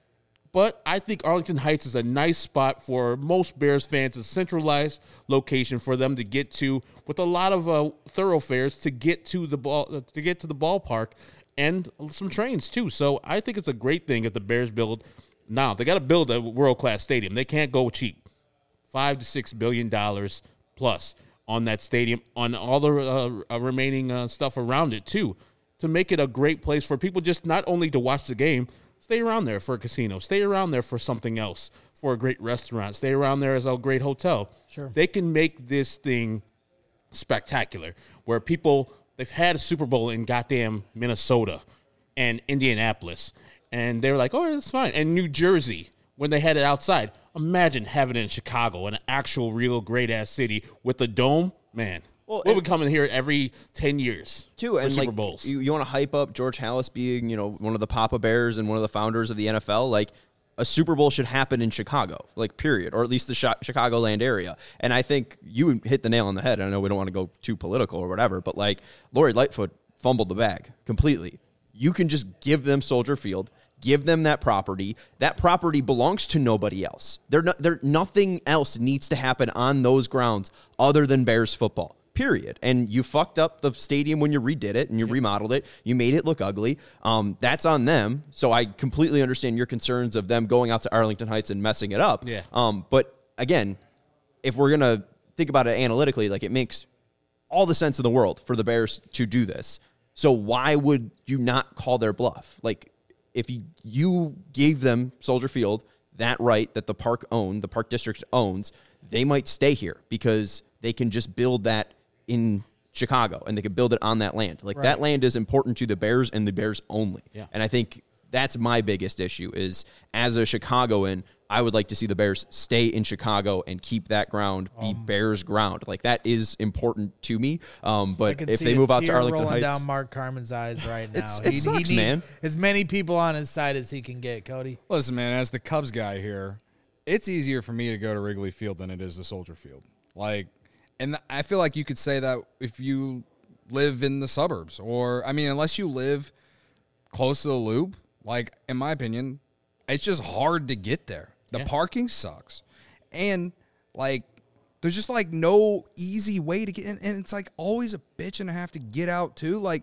But I think Arlington Heights is a nice spot for most Bears fans, a centralized location for them to get to, with a lot of uh, thoroughfares to get to the ball to get to the ballpark, and some trains too. So I think it's a great thing if the Bears build. Now they got to build a world class stadium. They can't go cheap, five to six billion dollars plus on that stadium, on all the uh, remaining uh, stuff around it too, to make it a great place for people just not only to watch the game. Stay around there for a casino. Stay around there for something else, for a great restaurant. Stay around there as a great hotel. Sure. They can make this thing spectacular, where people, they've had a Super Bowl in goddamn Minnesota and Indianapolis, and they were like, oh, it's fine. And New Jersey, when they had it outside. Imagine having it in Chicago, an actual, real, great-ass city with a dome. Man, Well, we'll be and- coming here every ten years Too, for and Super like Bowls. you, you want to hype up George Halas being, you know, one of the Papa Bears and one of the founders of the N F L. Like, a Super Bowl should happen in Chicago, like, period, or at least the Chi- Chicagoland area. And I think you hit the nail on the head. I know we don't want to go too political or whatever, but like, Lori Lightfoot fumbled the bag completely. You can just give them Soldier Field, give them that property. That property belongs to nobody else. There, no, there, nothing else needs to happen on those grounds other than Bears football. Period. And you fucked up the stadium when you redid it and you remodeled it. You made it look ugly. Um, that's on them. So I completely understand your concerns of them going out to Arlington Heights and messing it up. Yeah. Um, but again, if we're gonna think about it analytically, like, it makes all the sense in the world for the Bears to do this. So why would you not call their bluff? Like, if you, you gave them Soldier Field, that right that the park owned, the park district owns, they might stay here because they can just build that in Chicago and they can build it on that land. Like, Right. that land is important to the Bears and the Bears only. Yeah. And I think that's my biggest issue is, as a Chicagoan, I would like to see the Bears stay in Chicago and keep that ground be Um, Bears ground. Like, that is important to me. Um, I but can if see they a move out to tear Arlington rolling Heights, down Mark Carmen's eyes right now. It's- it he, sucks, he needs man. as many people on his side as he can get, Cody. Listen, man, as the Cubs guy here, it's easier for me to go to Wrigley Field than it is to Soldier Field. Like, and I feel like you could say that if you live in the suburbs, or, I mean, unless you live close to the loop, like, in my opinion, it's just hard to get there. The Yeah. parking sucks. And, like, there's just, like, no easy way to get in. And it's, like, always a bitch and a half to get out, too. Like,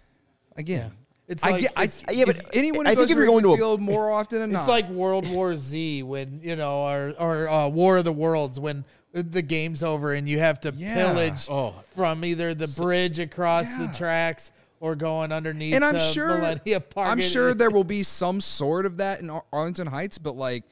again, It's I like- get, I, it's- yeah, but if anyone who I goes think if to you're going Wrigley to a- Field more often than not. It's like World War Z when, you know, or, or uh, War of the Worlds when the game's over and you have to Yeah. pillage Oh. from either the bridge across the Yeah. tracks or going underneath and I'm the sure Millennia Park. I'm It- sure there will be some sort of that in Ar- Arlington Heights, but like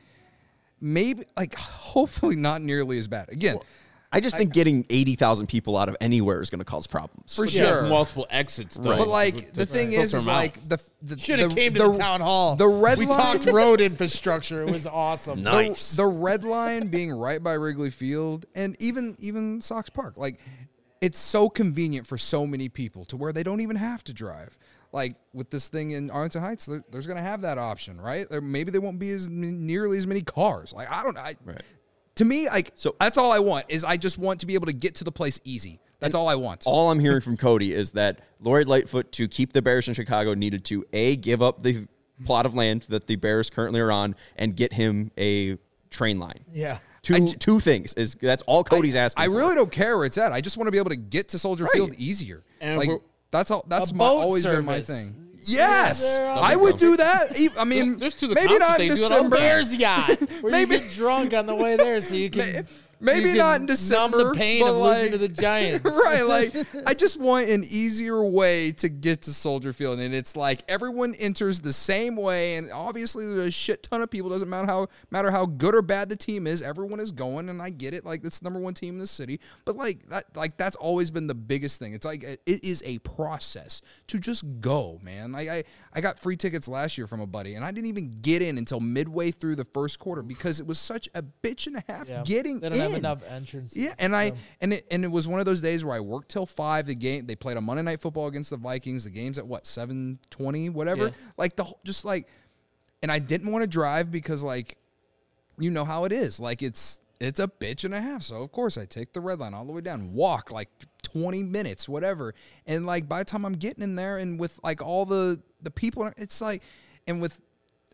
maybe like hopefully not nearly as bad. Again, I just think getting eighty thousand people out of anywhere is going to cause problems. for You have sure. multiple exits, though. But like to the thing filter is, is them out. like the the Should have the- came to the, town hall. The red we line, talked road infrastructure. It was awesome. No. the, Nice. the red line being right by Wrigley Field and even even Sox Park, like it's so convenient for so many people to where they don't even have to drive. Like with this thing in Arlington Heights, there, there's going to have that option, right? There, maybe there won't be as m- nearly as many cars. Like I don't know. I, Right. To me, like So- that's all I want is I just want to be able to get to the place easy. That's all I want. All I'm hearing from Cody is that Lori Lightfoot, to keep the Bears in Chicago, needed to A, give up the plot of land that the Bears currently are on and get him a train line. Yeah. Two two things is that's all Cody's asking. I for. really don't care where it's at. I just want to be able to get to Soldier Right. Field easier. And like we're- that's all. That's A my, boat always been my service. thing. Yes, they're on I the would boat. do that. E- I mean, There's- there's to the maybe conference, not in they do it all the December. time. Bears yacht. Where Maybe- you get drunk on the way there so you can Maybe you not can in December, numb the pain but of like- losing to the Giants. right, like I just want an easier way to get to Soldier Field, and it's like everyone enters the same way, and obviously there's a shit ton of people. Doesn't matter how matter how good or bad the team is, everyone is going, and I get it. Like it's the number one team in the city, but like that, like that's always been the biggest thing. It's like it is a process to just go, man. Like I, I got free tickets last year from a buddy, and I didn't even get in until midway through the first quarter because it was such a bitch and a half Yeah. getting They don't in. have enough entrances. Yeah, and I So- and it and it was one of those days where I worked till five. The game they played a Monday Night Football against the Vikings. The game's at what seven twenty, whatever. Yeah. Like the whole- just like, and I didn't want to drive because like, you know how it is. Like it's it's a bitch and a half. So of course I take the red line all the way down, walk like twenty minutes, whatever. And like by the time I'm getting in there, and with like all the the people, it's like, and with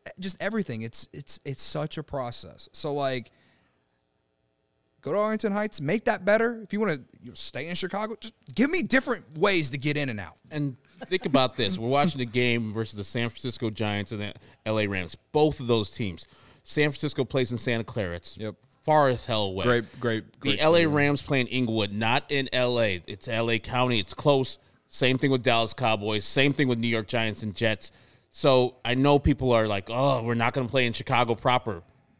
just everything. It's it's it's such a process. So like, go to Arlington Heights, make that better. If you want to you know, stay in Chicago, just give me different ways to get in and out. And think about this. We're watching the game versus the San Francisco Giants and the L A Rams. Both of those teams. San Francisco plays in Santa Clara. It's Yep. far as hell away. Great, great, great The L A stadium. Rams play in Inglewood, not in L A. It's L A County. It's close. Same thing with Dallas Cowboys. Same thing with New York Giants and Jets. So I know people are like, oh, we're not going to play in Chicago proper.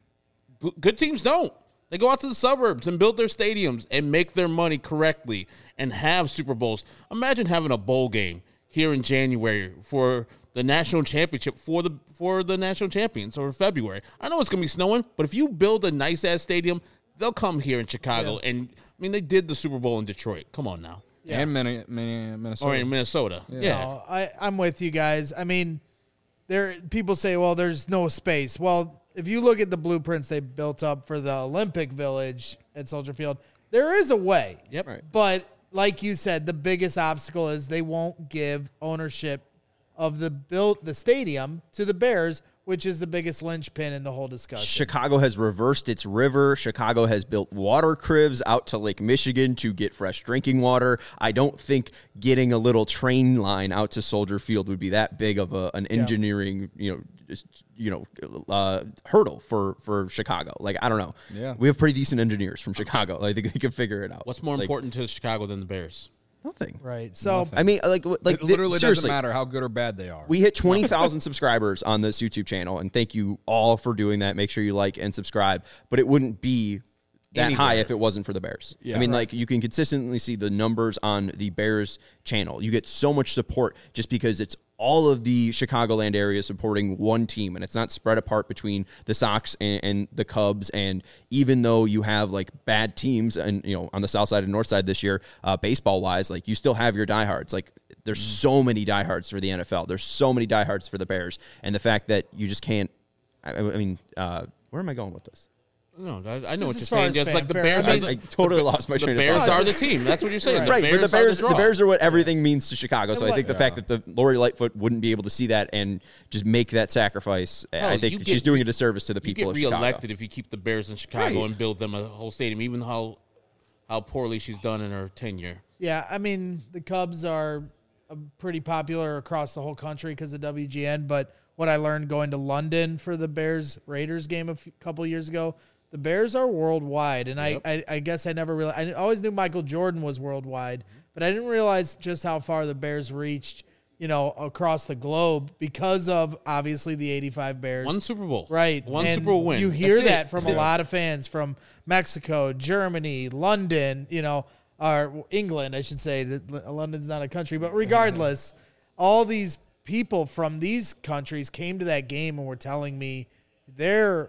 B- Good teams don't. They go out to the suburbs and build their stadiums and make their money correctly and have Super Bowls. Imagine having a bowl game here in January for the national championship for the for the national champions or February. I know it's going to be snowing, but if you build a nice-ass stadium, they'll come here in Chicago. Yeah. And, I mean, they did the Super Bowl in Detroit. Come on now. Yeah. And Min- Min- Minnesota. Or in Minnesota. Yeah. No, I, I'm with you guys. I mean, there people say, well, there's no space. Well, if you look at the blueprints they built up for the Olympic Village at Soldier Field, there is a way. Yep. Right. But like you said, the biggest obstacle is they won't give ownership of the built the stadium to the Bears, which is the biggest linchpin in the whole discussion. Chicago has reversed its river. Chicago has built water cribs out to Lake Michigan to get fresh drinking water. I don't think getting a little train line out to Soldier Field would be that big of a, an engineering, you know, just, you know, uh, hurdle for, for Chicago. Like, I don't know. Yeah. We have pretty decent engineers from Chicago. I think they can figure it out. What's more Like, important to Chicago than the Bears? Nothing. Right. So I mean, like, like It literally th- seriously, doesn't matter how good or bad they are. We hit twenty thousand subscribers on this YouTube channel, and thank you all for doing that. Make sure you like and subscribe. But it wouldn't be that Anywhere. high if it wasn't for the Bears. Yeah. I mean, Right. like, you can consistently see the numbers on the Bears channel. You get so much support just because it's all of the Chicagoland area supporting one team, and it's not spread apart between the Sox and, and the Cubs. And even though you have like bad teams, and you know, on the south side and north side this year, uh, baseball wise, like, you still have your diehards. Like, there's so many diehards for the N F L. There's so many diehards for the Bears, and the fact that you just can't. I, I mean, uh, where am I going with this? No, I, I know what as you're far saying. as It's like the fanfare, Bears. I are mean- the, I totally lost my the train of Bears thought. are the team. That's what you're saying. Right. The Right, Bears but the are Bears, the, the draw. Bears are what everything means to Chicago. So And I think what- the fact that the Lori Lightfoot wouldn't be able to see that and just make that sacrifice, Hell, I think you that get- she's doing a disservice to the You people get of reelected Chicago. if you keep the Bears in Chicago Right. and build them a whole stadium, even how how poorly she's done in her tenure. yeah, I mean, the Cubs are uh, pretty popular across the whole country because of W G N. But what I learned going to London for the Bears Raiders game a f- couple years ago, the Bears are worldwide, and Yep. I, I I guess I never really I always knew Michael Jordan was worldwide, but I didn't realize just how far the Bears reached, you know, across the globe because of obviously the eighty-five Bears. One Super Bowl. Right. One and Super Bowl win. You hear That's it. that from a lot of fans from Mexico, Germany, London, you know, or England, I should say. That London's not a country, but regardless, all these people from these countries came to that game and were telling me they're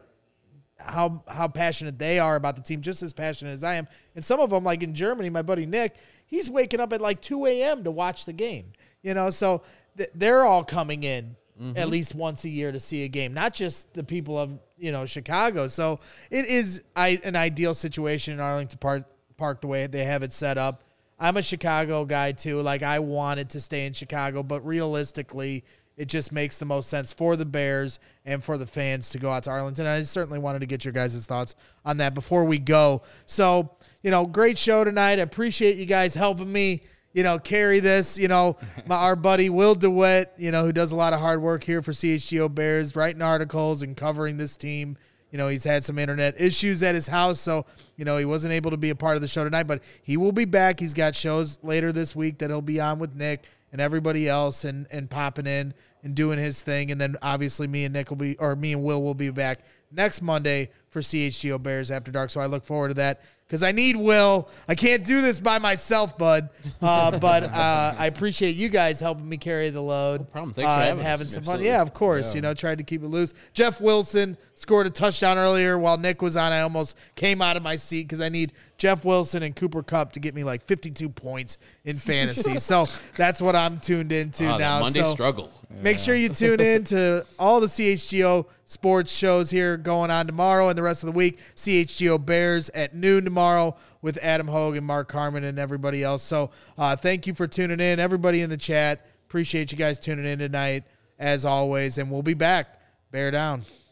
how how passionate they are about the team, just as passionate as I am. And some of them, like in Germany, my buddy Nick, he's waking up at like two a.m. to watch the game. You know, so th- they're all coming in at least once a year to see a game, not just the people of, you know, Chicago. So it is I, an ideal situation in Arlington Park, Park the way they have it set up. I'm a Chicago guy too. Like, I wanted to stay in Chicago, but realistically, it just makes the most sense for the Bears and for the fans to go out to Arlington. I certainly wanted to get your guys' thoughts on that before we go. So, you know, great show tonight. I appreciate you guys helping me, you know, carry this. You know, my, our buddy Will DeWitt, you know, who does a lot of hard work here for C H G O Bears, writing articles and covering this team. You know, he's had some internet issues at his house, so, you know, he wasn't able to be a part of the show tonight, but he will be back. He's got shows later this week that he'll be on with Nick and everybody else and, and popping in and doing his thing. And then obviously me and Nick will be, or me and Will will be back next Monday for C H G O Bears After Dark. So I look forward to that because I need Will. I can't do this by myself, bud. Uh, but uh, I appreciate you guys helping me carry the load. No problem. Thanks for uh, having and us. having some Absolutely. fun. Yeah, of course. You know, tried to keep it loose. Jeff Wilson scored a touchdown earlier while Nick was on. I almost came out of my seat because I need Jeff Wilson and Cooper Kupp to get me like fifty-two points in fantasy. So that's what I'm tuned into Ah, that now. Monday so struggle. make sure you tune in to all the C H G O sports shows here going on tomorrow and the rest of the week. C H G O Bears at noon tomorrow with Adam Hogue and Mark Harmon and everybody else. So uh, thank you for tuning in. Everybody in the chat, appreciate you guys tuning in tonight as always. And we'll be back. Bear down.